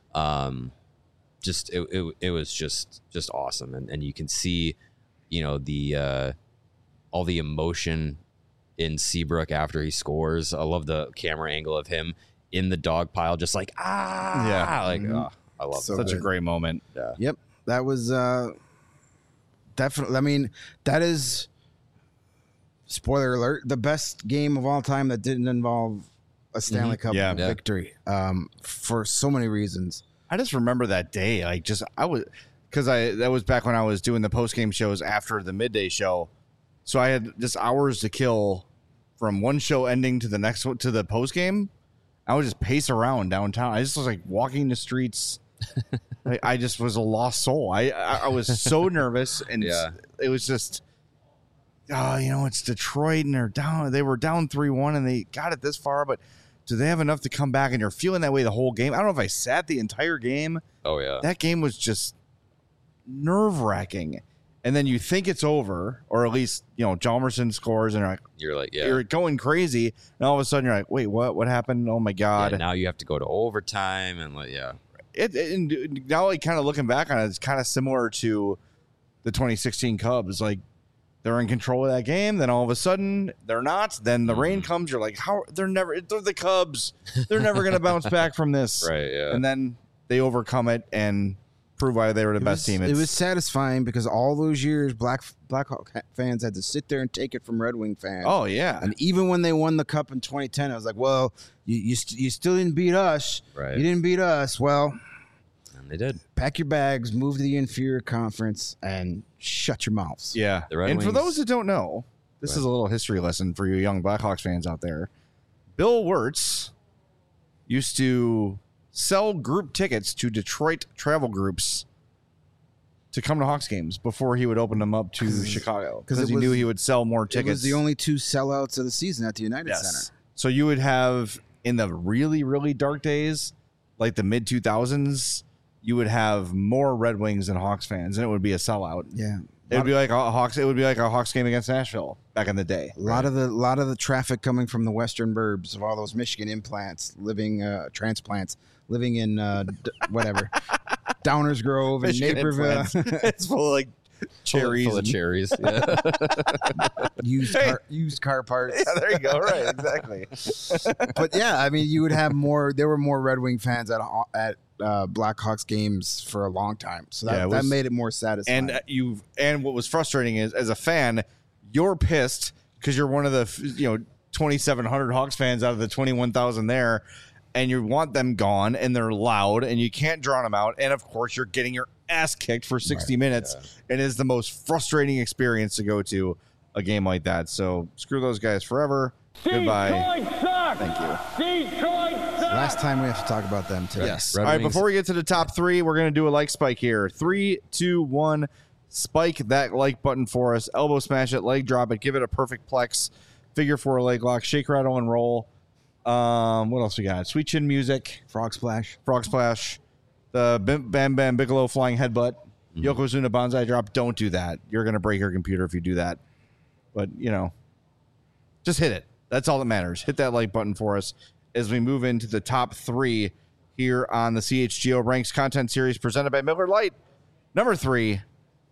It was just awesome, and you can see, the all the emotion in Seabrook after he scores. I love the camera angle of him in the dog pile, just like I love such a great moment. Yeah. Yep, that was definitely. I mean, that is, spoiler alert, the best game of all time that didn't involve a Stanley Cup victory. For so many reasons. I just remember that day. That was back when I was doing the post game shows after the midday show. So I had just hours to kill from one show ending to the next one to the post game. I would just pace around downtown. I just was like walking the streets. I just was a lost soul. I was so nervous, and it was just, it's Detroit and they were down 3-1 and they got it this far, but do they have enough to come back? And you're feeling that way the whole game. I don't know if I sat the entire game. Oh, yeah. That game was just nerve-wracking. And then you think it's over, or at least, Hjalmarsson scores, and you're going crazy. And all of a sudden you're like, wait, what? What happened? Oh, my God. Yeah, now you have to go to overtime. And and now, like, kind of looking back on it, it's kind of similar to the 2016 Cubs. Like, they're in control of that game. Then all of a sudden, they're not. Then the rain comes. You're like, they're the Cubs. They're never going to bounce back from this. Right, yeah. And then they overcome it and prove why they were the best team. It was satisfying because all those years, Blackhawk fans had to sit there and take it from Red Wing fans. Oh, yeah. And even when they won the Cup in 2010, I was like, well, you still didn't beat us. Right. You didn't beat us. Well, and they did. Pack your bags, move to the inferior conference, and shut your mouths. Yeah. And for those that don't know, this is a little history lesson for you young Blackhawks fans out there. Bill Wirtz used to sell group tickets to Detroit travel groups to come to Hawks games before he would open them up to Chicago, because he knew he would sell more tickets. It was the only 2 sellouts of the season at the United Center. So you would have, in the really, really dark days, like the mid 2000s, you would have more Red Wings than Hawks fans, and it would be a sellout. Yeah. It would be like a Hawks. It would be like a Hawks game against Nashville back in the day. A lot of the traffic coming from the western burbs of all those Michigan transplants living in whatever Downers Grove and Michigan Naperville. It's full of like cherries, full of cherries. Yeah. used car parts. Yeah, there you go. Right, exactly. But yeah, I mean, you would have more. There were more Red Wing fans at Blackhawks games for a long time, so that made it more satisfying. And what was frustrating is, as a fan, you're pissed because you're one of the 2,700 Hawks fans out of the 21,000 there, and you want them gone, and they're loud, and you can't drown them out, and of course you're getting your ass kicked for 60 minutes, and it is the most frustrating experience to go to a game like that. So screw those guys forever. Goodbye. Thank you. Detroit sucks. Last time we have to talk about them today. Yes. Red All right, Wings. before we get to the top 3, we're going to do a like spike here. 3, 2, 1. Spike that like button for us. Elbow smash it, leg drop it, give it a perfect plex. Figure 4 leg lock, shake, rattle, and roll. What else we got? Sweet chin music, Frog splash. the Bam Bam Bigelow flying headbutt, Yokozuna Banzai drop. Don't do that. You're going to break your computer if you do that. But, just hit it. That's all that matters. Hit that like button for us as we move into the top 3 here on the CHGO Ranks Content Series presented by Miller Lite. Number 3,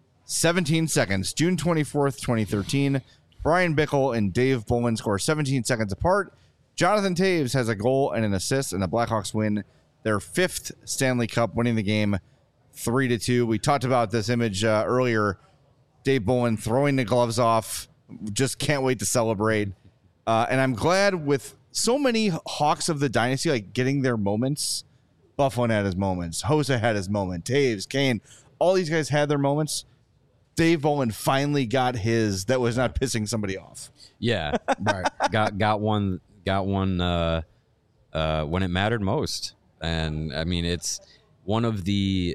17 seconds, June 24th, 2013. Brian Bickle and Dave Bowman score 17 seconds apart. Jonathan Taves has a goal and an assist, and the Blackhawks win their 5th Stanley Cup, winning the game 3-2. We talked about this image earlier. Dave Bowman throwing the gloves off. Just can't wait to celebrate. And I'm glad with so many Hawks of the dynasty like getting their moments. Bufflin had his moments. Hossa had his moment. Taves, Kane, all these guys had their moments. Dave Bowman finally got his that was not pissing somebody off. Yeah, Right. got one when it mattered most, and I mean it's one of the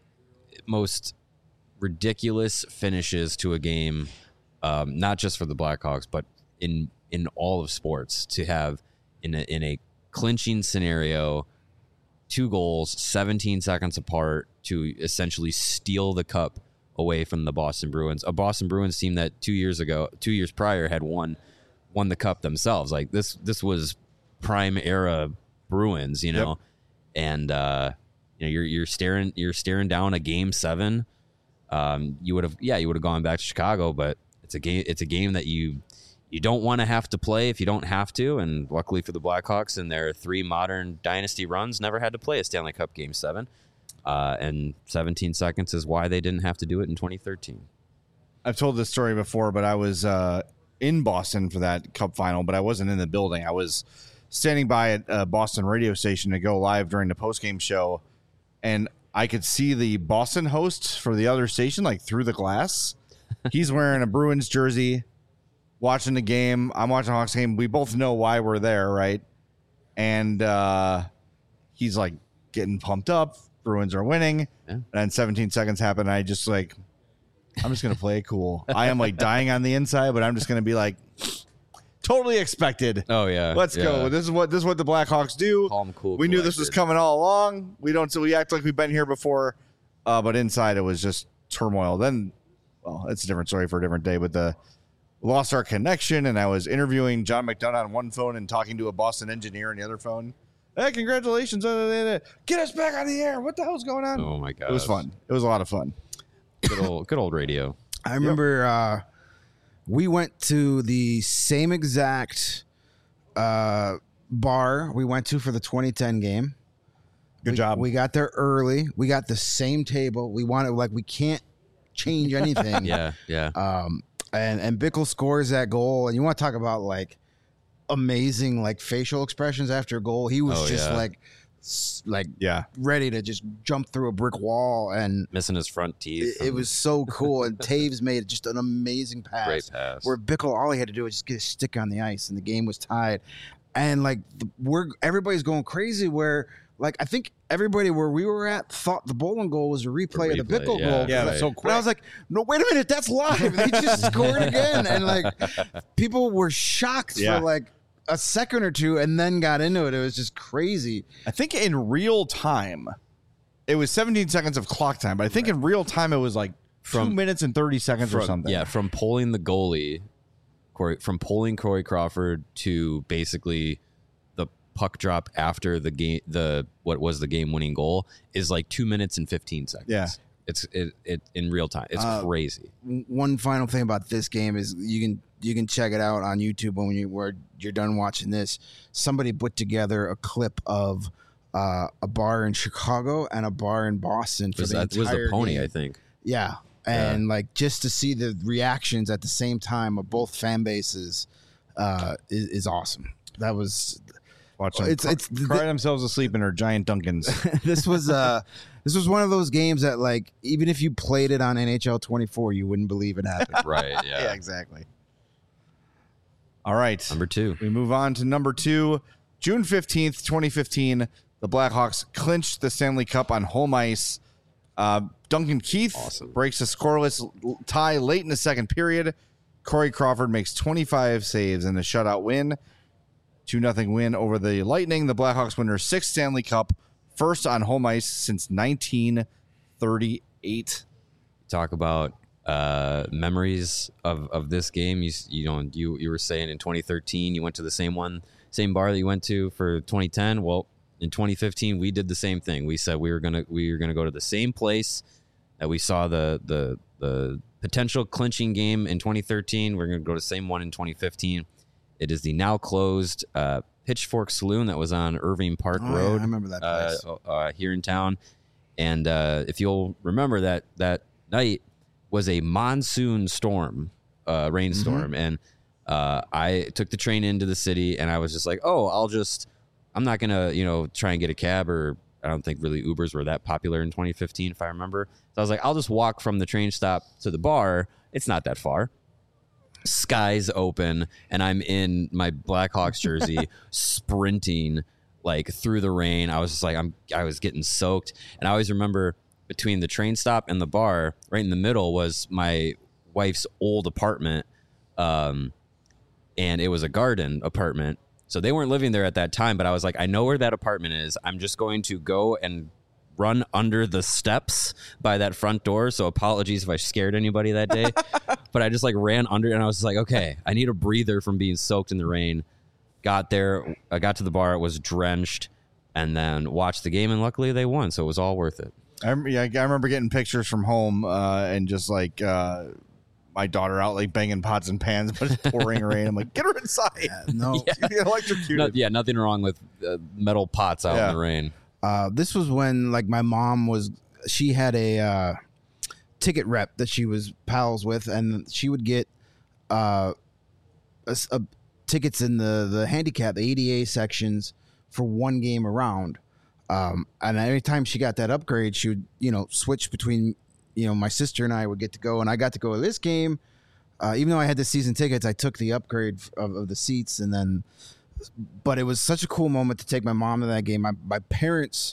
most ridiculous finishes to a game, not just for the Blackhawks, but in all of sports, to have in a clinching scenario, 2 goals, 17 seconds apart, to essentially steal the cup away from the Boston Bruins, a Boston Bruins team that 2 years prior had won the cup themselves. Like this was prime era Bruins, Yep. and you're staring down a game 7. You would have gone back to Chicago, but it's a game that you don't want to have to play if you don't have to. And luckily for the Blackhawks in their 3 modern dynasty runs, never had to play a Stanley Cup game 7. And 17 seconds is why they didn't have to do it in 2013. I've told this story before, but I was in Boston for that Cup final, but I wasn't in the building. I was standing by at a Boston radio station to go live during the postgame show, and I could see the Boston host for the other station like through the glass. He's wearing a Bruins jersey, watching the game. I'm watching the Hawks game. We both know why we're there, right? And he's like getting pumped up. Bruins are winning. Yeah. And then 17 seconds happen. And I just I'm just going to play it cool. I am like dying on the inside, but I'm just going to be like, totally expected. Oh yeah, Let's go. This is what the Blackhawks do. Calm, cool. We knew this was coming all along. We act like we've been here before, but inside it was just turmoil. Then, well, it's a different story for a different day. But lost our connection, and I was interviewing John McDonough on one phone and talking to a Boston engineer on the other phone. Hey, congratulations! Get us back on the air. What the hell's going on? Oh my god, It was fun. It was a lot of fun. Good old radio. I remember we went to the same exact bar we went to for the 2010 game. Good job. We got there early. We got the same table. We can't change anything. Yeah. And Bickle scores that goal, and you want to talk about like amazing like facial expressions after a goal. He was Yeah. ready to just jump through a brick wall, and Missing his front teeth. it was so cool. And Taves made just an amazing pass. Great pass. Where Bickle, all he had to do was just get his stick on the ice, and the game was tied. and like everybody's going crazy. Where like I think everybody where we were at thought the bowling goal was a replay of the Bickle goal. Yeah, it was so quick. And I was like, no, wait a minute, that's live. They just scored again, and like people were shocked for like a second or two, and then got into it. It was just crazy. I think in real time, it was 17 seconds of clock time, but I think in real time it was like 2 minutes and 30 seconds or something. Yeah, from polling the goalie, from polling Corey Crawford to basically the puck drop after the game, what was the game-winning goal is like 2 minutes and 15 seconds. Yeah. It's in real time. It's crazy. One final thing about this game is you can check it out on YouTube when you're done watching this. Somebody put together a clip of a bar in Chicago and a bar in Boston for the entire was the Pony, game. I think. Yeah, and like just to see the reactions at the same time of both fan bases is awesome. That was Watching cry themselves asleep in their giant Dunkins. This was one of those games that like even if you played it on NHL 24, you wouldn't believe it happened. Right. Yeah. Yeah, exactly. All right. Number 2. We move on to number 2. June 15th, 2015, the Blackhawks clinched the Stanley Cup on home ice. Duncan Keith breaks a scoreless tie late in the second period. Corey Crawford makes 25 saves in a shutout win. 2-0 win over the Lightning. The Blackhawks win their 6th Stanley Cup, first on home ice since 1938. Talk about memories of this game. You were saying in 2013 you went to the same bar that you went to for 2010. Well, in 2015 we did the same thing. We said we were gonna go to the same place that we saw the potential clinching game in 2013. We're gonna go to the same one in 2015. It is the now closed Pitchfork Saloon that was on Irving Park Road. Yeah, I remember that place here in town. And if you'll remember that night was a monsoon storm, rainstorm. And I took the train into the city, and I was just like, I'm not going to, try and get a cab, or I don't think really Ubers were that popular in 2015, if I remember. So I was like, I'll just walk from the train stop to the bar. It's not that far. Skies open, and I'm in my Blackhawks jersey sprinting like through the rain. I was just like, I was getting soaked. And I always remember between the train stop and the bar, right in the middle was my wife's old apartment. And it was a garden apartment. So they weren't living there at that time, but I was like, I know where that apartment is. I'm just going to go and run under the steps by that front door. So apologies if I scared anybody that day, but I just like ran under, and I was like, okay, I need a breather from being soaked in the rain. Got there, I got to the bar, it was drenched, and then watched the game, and luckily they won, so it was all worth it. I remember getting pictures from home and just like my daughter out like banging pots and pans, but it's pouring rain. I'm like, get her inside. No, electrocuted. Nothing wrong with metal pots out in the rain. This was when like my mom she had a ticket rep that she was pals with, and she would get tickets in the handicap, the ADA sections for one game around. And every time she got that upgrade, she would, switch between, my sister and I would get to go, and I got to go to this game. Even though I had the season tickets, I took the upgrade of the seats, but it was such a cool moment to take my mom to that game. My parents,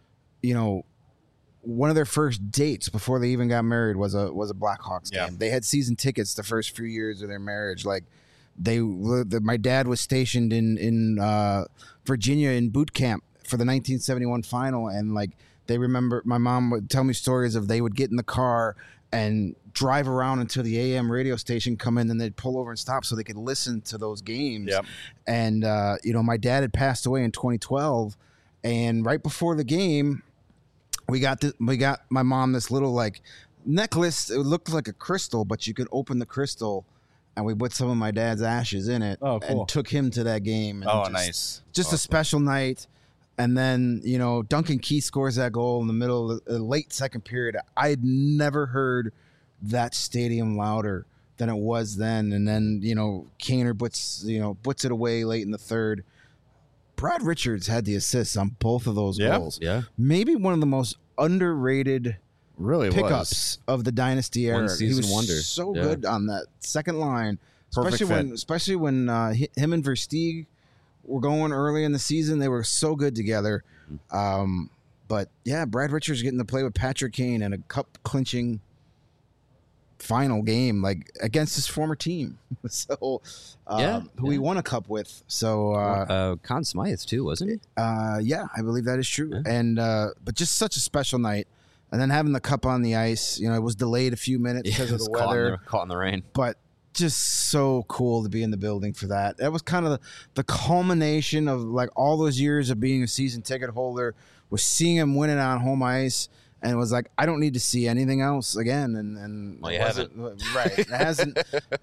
one of their first dates before they even got married was a Blackhawks game. They had season tickets the first few years of their marriage. Like my dad was stationed in Virginia in boot camp for the 1971 final, and like they remember, my mom would tell me stories of they would get in the car and drive around until the AM radio station come in, and they'd pull over and stop so they could listen to those games. Yep. And my dad had passed away in 2012, and right before the game, we got my mom this little like necklace. It looked like a crystal, but you could open the crystal, and we put some of my dad's ashes in it. Oh, cool. And took him to that game. And Nice. Just awesome. A special night. And then, Duncan Keith scores that goal in the middle of the late second period. I had never heard that stadium louder than it was then. And then, Kaner puts it away late in the third. Brad Richards had the assists on both of those goals. Yeah. Maybe one of the most underrated pickups of the Dynasty era. One season wonder. So good on that second line. Perfect Especially when him and Versteeg were going early in the season. They were so good together. But yeah, Brad Richards getting to play with Patrick Kane in a cup clinching final game, like against his former team. So, who he won a cup with. So, Conn Smythe too, wasn't he? yeah, I believe that is true. Yeah. And but just such a special night. And then having the cup on the ice, it was delayed a few minutes because of the weather. Caught in the rain. But just so cool to be in the building for that. That was kind of the culmination of like all those years of being a season ticket holder, was seeing him win it on home ice, and it was like, I don't need to see anything else again. And Well, you haven't. Right. It hasn't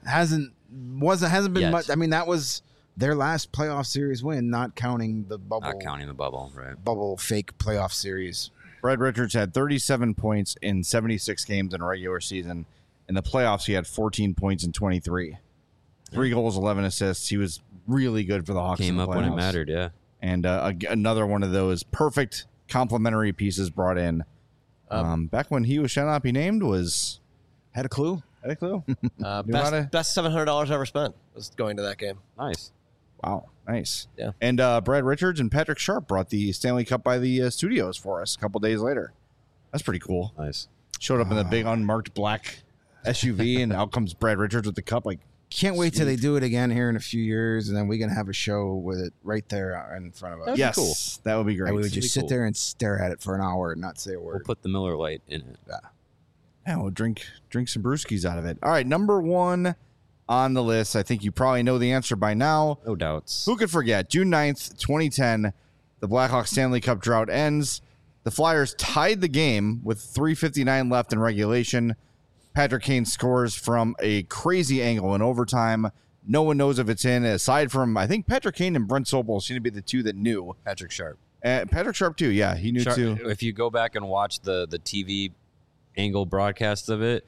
been Yet. much. I mean, that was their last playoff series win, not counting the bubble. Not counting the bubble, right? Bubble fake playoff series. Brad Richards had 37 points in 76 games in a regular season. In the playoffs, he had 14 points in 23. 3 goals, 11 assists. He was really good for the Hawks. Came in the up when it playoffs. mattered, yeah. And another one of those perfect complementary pieces brought in. Back when he should not be named was... Had a clue? Had a clue? Knew how to- Best $700 ever spent was going to that game. Nice. Wow, nice. Yeah. And Brad Richards and Patrick Sharp brought the Stanley Cup by the studios for us a couple days later. That's pretty cool. Nice. Showed up in the big unmarked black SUV, and out comes Brad Richards with the cup. Like, Can't wait till they do it again here in a few years, and then we can have a show with it right there in front of us. That'd be yes, cool. that would be great. And we would That'd just be sit cool. there and stare at it for an hour and not say a We'll word. put the Miller Lite in it. Yeah, we'll drink some brewskis out of it. All right, number 1 on the list. I think you probably know the answer by now. No doubts. Who could forget? June 9th, 2010, the Blackhawks Stanley Cup drought ends. The Flyers tied the game with 3:59 left in regulation. Patrick Kane scores from a crazy angle in overtime. No one knows if it's in, aside from, I think, Patrick Kane and Brent Sobel seem to be the two that knew. Patrick Sharp. Patrick Sharp, too. Yeah, he knew, too. If you go back and watch the TV angle broadcast of it,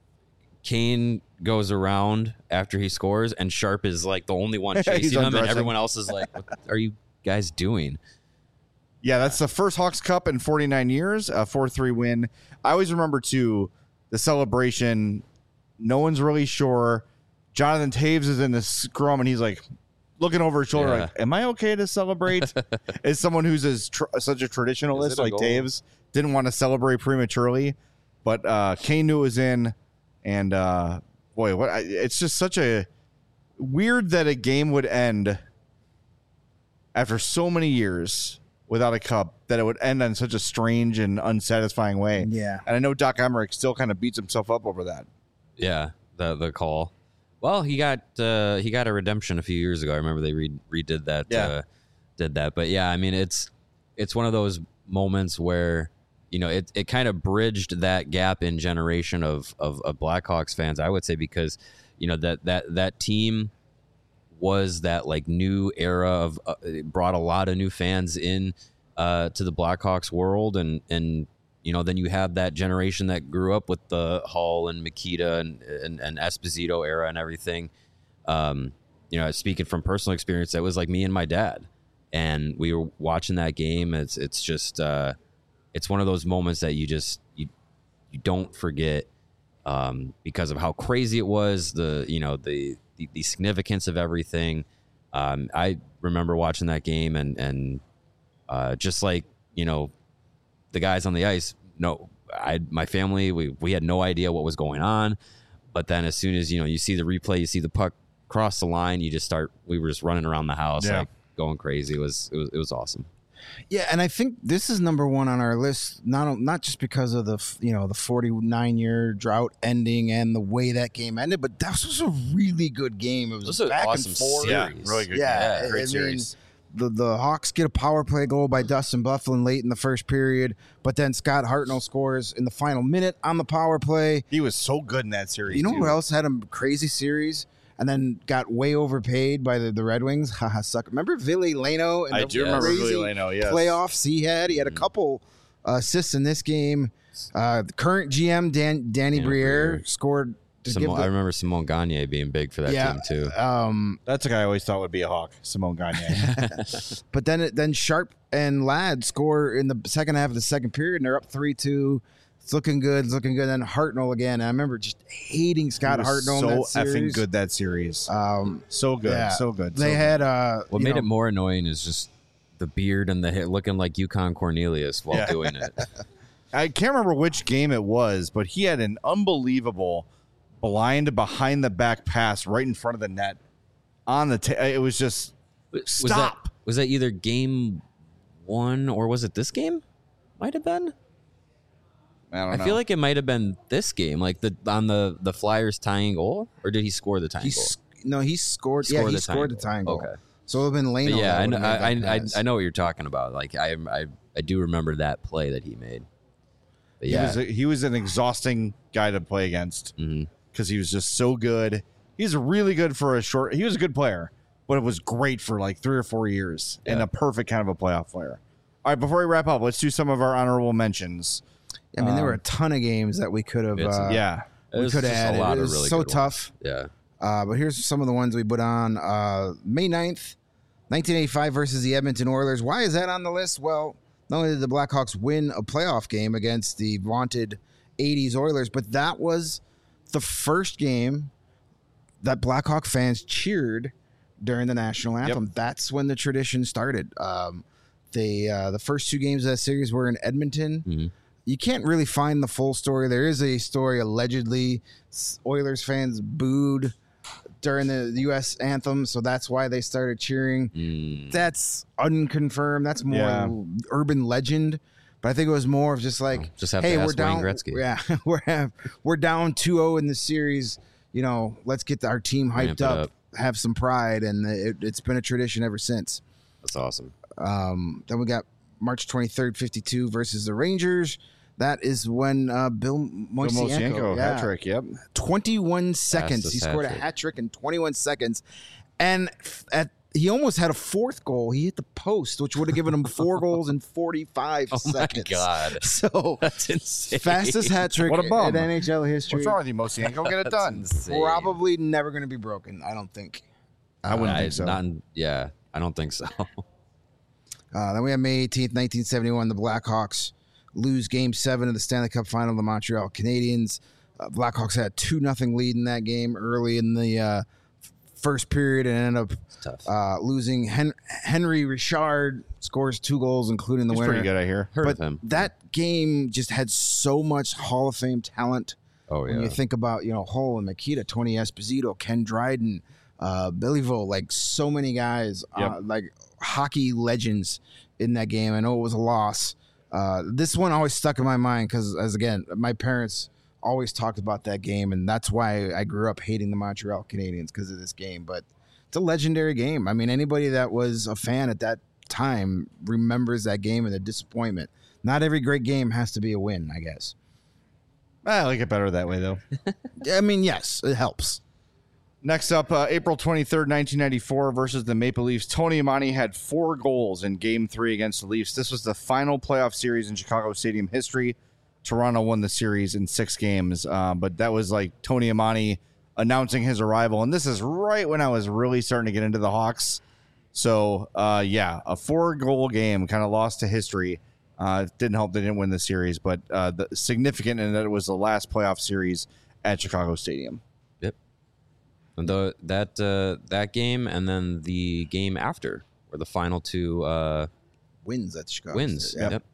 Kane goes around after he scores, and Sharp is like the only one He's chasing him, and undressing. everyone else is like, "What are you guys doing?" Yeah, that's the first Hawks Cup in 49 years, a 4-3 win. I always remember, too, the celebration. No one's really sure. Jonathan Taves is in the scrum, and he's like looking over his shoulder, Yeah. like, am I okay to celebrate? As someone who's such a Is traditionalist it a like goal? Taves, didn't want to celebrate prematurely. But Kane knew it was in. And, boy, it's just such a weird that a game would end after so many years without a cup, that it would end in such a strange and unsatisfying way. Yeah. And I know Doc Emmerich still kind of beats himself up over that. Yeah, the call. Well, he got a redemption a few years ago. I remember they redid that. Yeah. Did that, but yeah, I mean, it's one of those moments where it kind of bridged that gap in generation of Blackhawks fans, I would say, because that team was that like new era of it brought a lot of new fans in to the Blackhawks world, and then you have that generation that grew up with the Hull and Makita and Esposito era and everything. Speaking from personal experience, that was like me and my dad, and we were watching that game. It's just it's one of those moments that you don't forget because of how crazy it was, the significance of everything. I remember watching that game and just like the guys on the ice. No, my family, we had no idea what was going on, but then as soon as you see the replay, you see the puck cross the line, we were just running around the house, Yeah. like going crazy. It was awesome. Yeah, and I think this is number 1 on our list, not just because of the 49-year drought ending and the way that game ended, but that was a really good game. It was This was an back awesome and forth. series. really good. Yeah, Great I series. mean, the Hawks get a power play goal by Dustin Byfuglien late in the first period, but then Scott Hartnell scores in the final minute on the power play. He was so good in that series. You know too. who else had a crazy series and then got way overpaid by the Red Wings? Haha, sucker. Remember Ville Leno? And I the do remember crazy Ville Leno, yes. playoffs he had. He had a couple assists in this game. The current GM Danny Briere scored to give I remember Simone Gagne being big for that team too. That's a guy I always thought would be a Hawk, Simone Gagne. But then Sharp and Ladd score in the second half of the second period, and they're up 3-2. It's looking good. It's looking good. And then Hartnell again. I remember just hating Scott He was Hartnell. so in that series. effing good that series. So good, Yeah. so good. They so had What made it more annoying is just the beard and the hair looking like Yukon Cornelius while Yeah. doing it. I can't remember which game it was, but he had an unbelievable blind behind the back pass right in front of the net on the. It was just stop. Was that either game 1 or was it this game? Might have been. I don't know. I feel like it might have been this game, like on the Flyers tying goal, or did he score the tying goal? He scored. Scored Yeah, he the scored the tying tying goal. goal. Okay. So it would have been Lane. But yeah, I know what you're talking about. Like I do remember that play that he made. But yeah, he was an exhausting guy to play against because he was just so good. He's really good for a short. He was a good player, but it was great for like 3 or 4 years and a perfect kind of a playoff player. All right, before we wrap up, let's do some of our honorable mentions. I mean, there were a ton of games that we could have. It We was could have just a added. lot It of was really so good tough. ones. But here's some of the ones we put on. May 9th, 1985 versus the Edmonton Oilers. Why is that on the list? Well, not only did the Blackhawks win a playoff game against the vaunted 80s Oilers, but that was the first game that Blackhawk fans cheered during the national anthem. That's when the tradition started. The first 2 games of that series were in Edmonton. You can't really find the full story. There is a story allegedly Oilers fans booed during the U.S. anthem, so that's why they started cheering. That's unconfirmed. That's more urban legend. But I think it was more of just like, just have hey, to we're ask down. Wayne Gretzky. Yeah, we're down 2-0 in the series. You know, let's get our team Ramp hyped it up, up. have some pride, and it's been a tradition ever since. That's awesome. Then we got March 23rd, 52 versus the Rangers. That is when Bill Moisenko hat trick. Yep. 21 seconds. He scored a hat trick in 21 seconds. And he almost had a 4th goal. He hit the post, which would have given him 4 goals in 45 seconds. Oh, my God. So That's insane. fastest hat trick What a bum. in NHL history. What's wrong with you, Moisenko? Get it done. Insane. Probably never going to be broken, I don't think. I wouldn't think so. I don't think so. Then we have May 18th, 1971. The Blackhawks lose Game 7 of the Stanley Cup Final to the Montreal Canadiens. Blackhawks had 2-0 lead in that game early in the first period and ended up losing. Henry Richard scores 2 goals, including the He's winner. pretty good, I hear. Heard But of him. that game just had so much Hall of Fame talent. Oh yeah. When you think about, Hull and Makita, Tony Esposito, Ken Dryden, Billy Vo, like so many guys, like hockey legends in that game. I know it was a loss. This one always stuck in my mind because, again, my parents always talked about that game, and that's why I grew up hating the Montreal Canadiens because of this game. But it's a legendary game. I mean, anybody that was a fan at that time remembers that game and the disappointment. Not every great game has to be a win, I guess. I like it better that way, though. I mean, yes, it helps. Next up, April 23rd, 1994 versus the Maple Leafs. Tony Amani had 4 goals in Game 3 against the Leafs. This was the final playoff series in Chicago Stadium history. Toronto won the series in 6 games, but that was like Tony Amani announcing his arrival. And this is right when I was really starting to get into the Hawks. So, a 4-goal game kind of lost to history. Didn't help they didn't win the series, but significant in that it was the last playoff series at Chicago Stadium. Yep. And that game and then the game after were the final 2 Wins at Chicago. wins. Yep.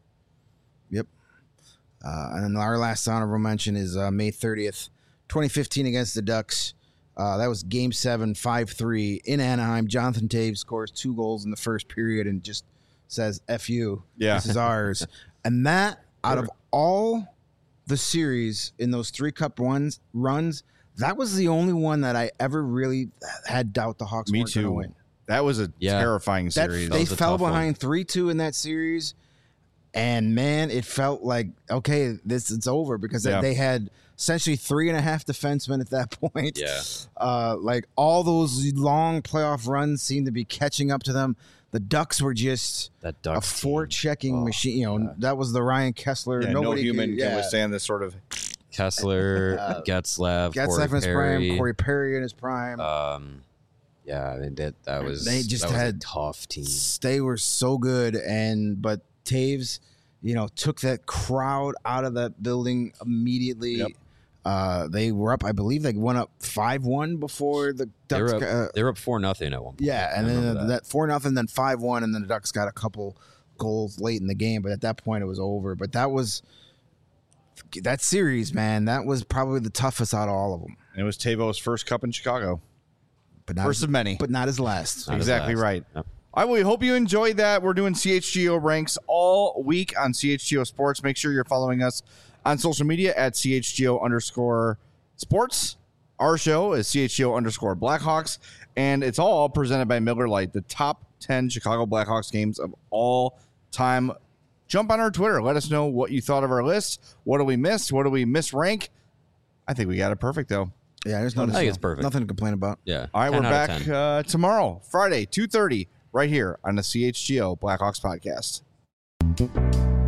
And then our last honorable mention is May 30th, 2015 against the Ducks. That was Game 7, 5-3 in Anaheim. Jonathan Taves scores 2 goals in the first period and just says, F you. Yeah. This is ours. And that, out of all the series in those 3 Cup runs, that was the only one that I ever really had doubt the Hawks weren't going to win. That was a terrifying series. They was a fell tough one. behind 3-2 in that series. And man, it felt like, okay, it's over because they had essentially 3.5 defensemen at that point. Yeah. Like all those long playoff runs seemed to be catching up to them. The Ducks were just That a Ducks forechecking machine. That was the Ryan Kessler. Yeah, Nobody no human could, can withstand this sort of. Kessler, Getzlaff, Getzlaff in his Perry. prime, Corey Perry in his prime. Yeah, I mean, that was They just that was had a tough team. They were so good, but Taves took that crowd out of that building immediately. Yep. They were up, I believe they went up 5-1 before the Ducks. They were up 4-0 at one point. Yeah, and then that 4-0, then 5-1, and then the Ducks got a couple goals late in the game, but at that point it was over. But that series, man, that was probably the toughest out of all of them. And it was Tavo's first cup in Chicago. But not first of many. But not his last. Not his exactly last. right. Yep. We hope you enjoyed that. We're doing CHGO ranks all week on CHGO Sports. Make sure you're following us on social media at CHGO_sports. Our show is CHGO_Blackhawks, and it's all presented by Miller Lite, the top 10 Chicago Blackhawks games of all time. Jump on our Twitter. Let us know what you thought of our list. What do we miss? What do we misrank? I think we got it perfect, though. Yeah, there's I think it's perfect. Nothing to complain about. Yeah. All right, we're 10 out of 10. back tomorrow, Friday, 2:30, right here on the CHGO Blackhawks podcast.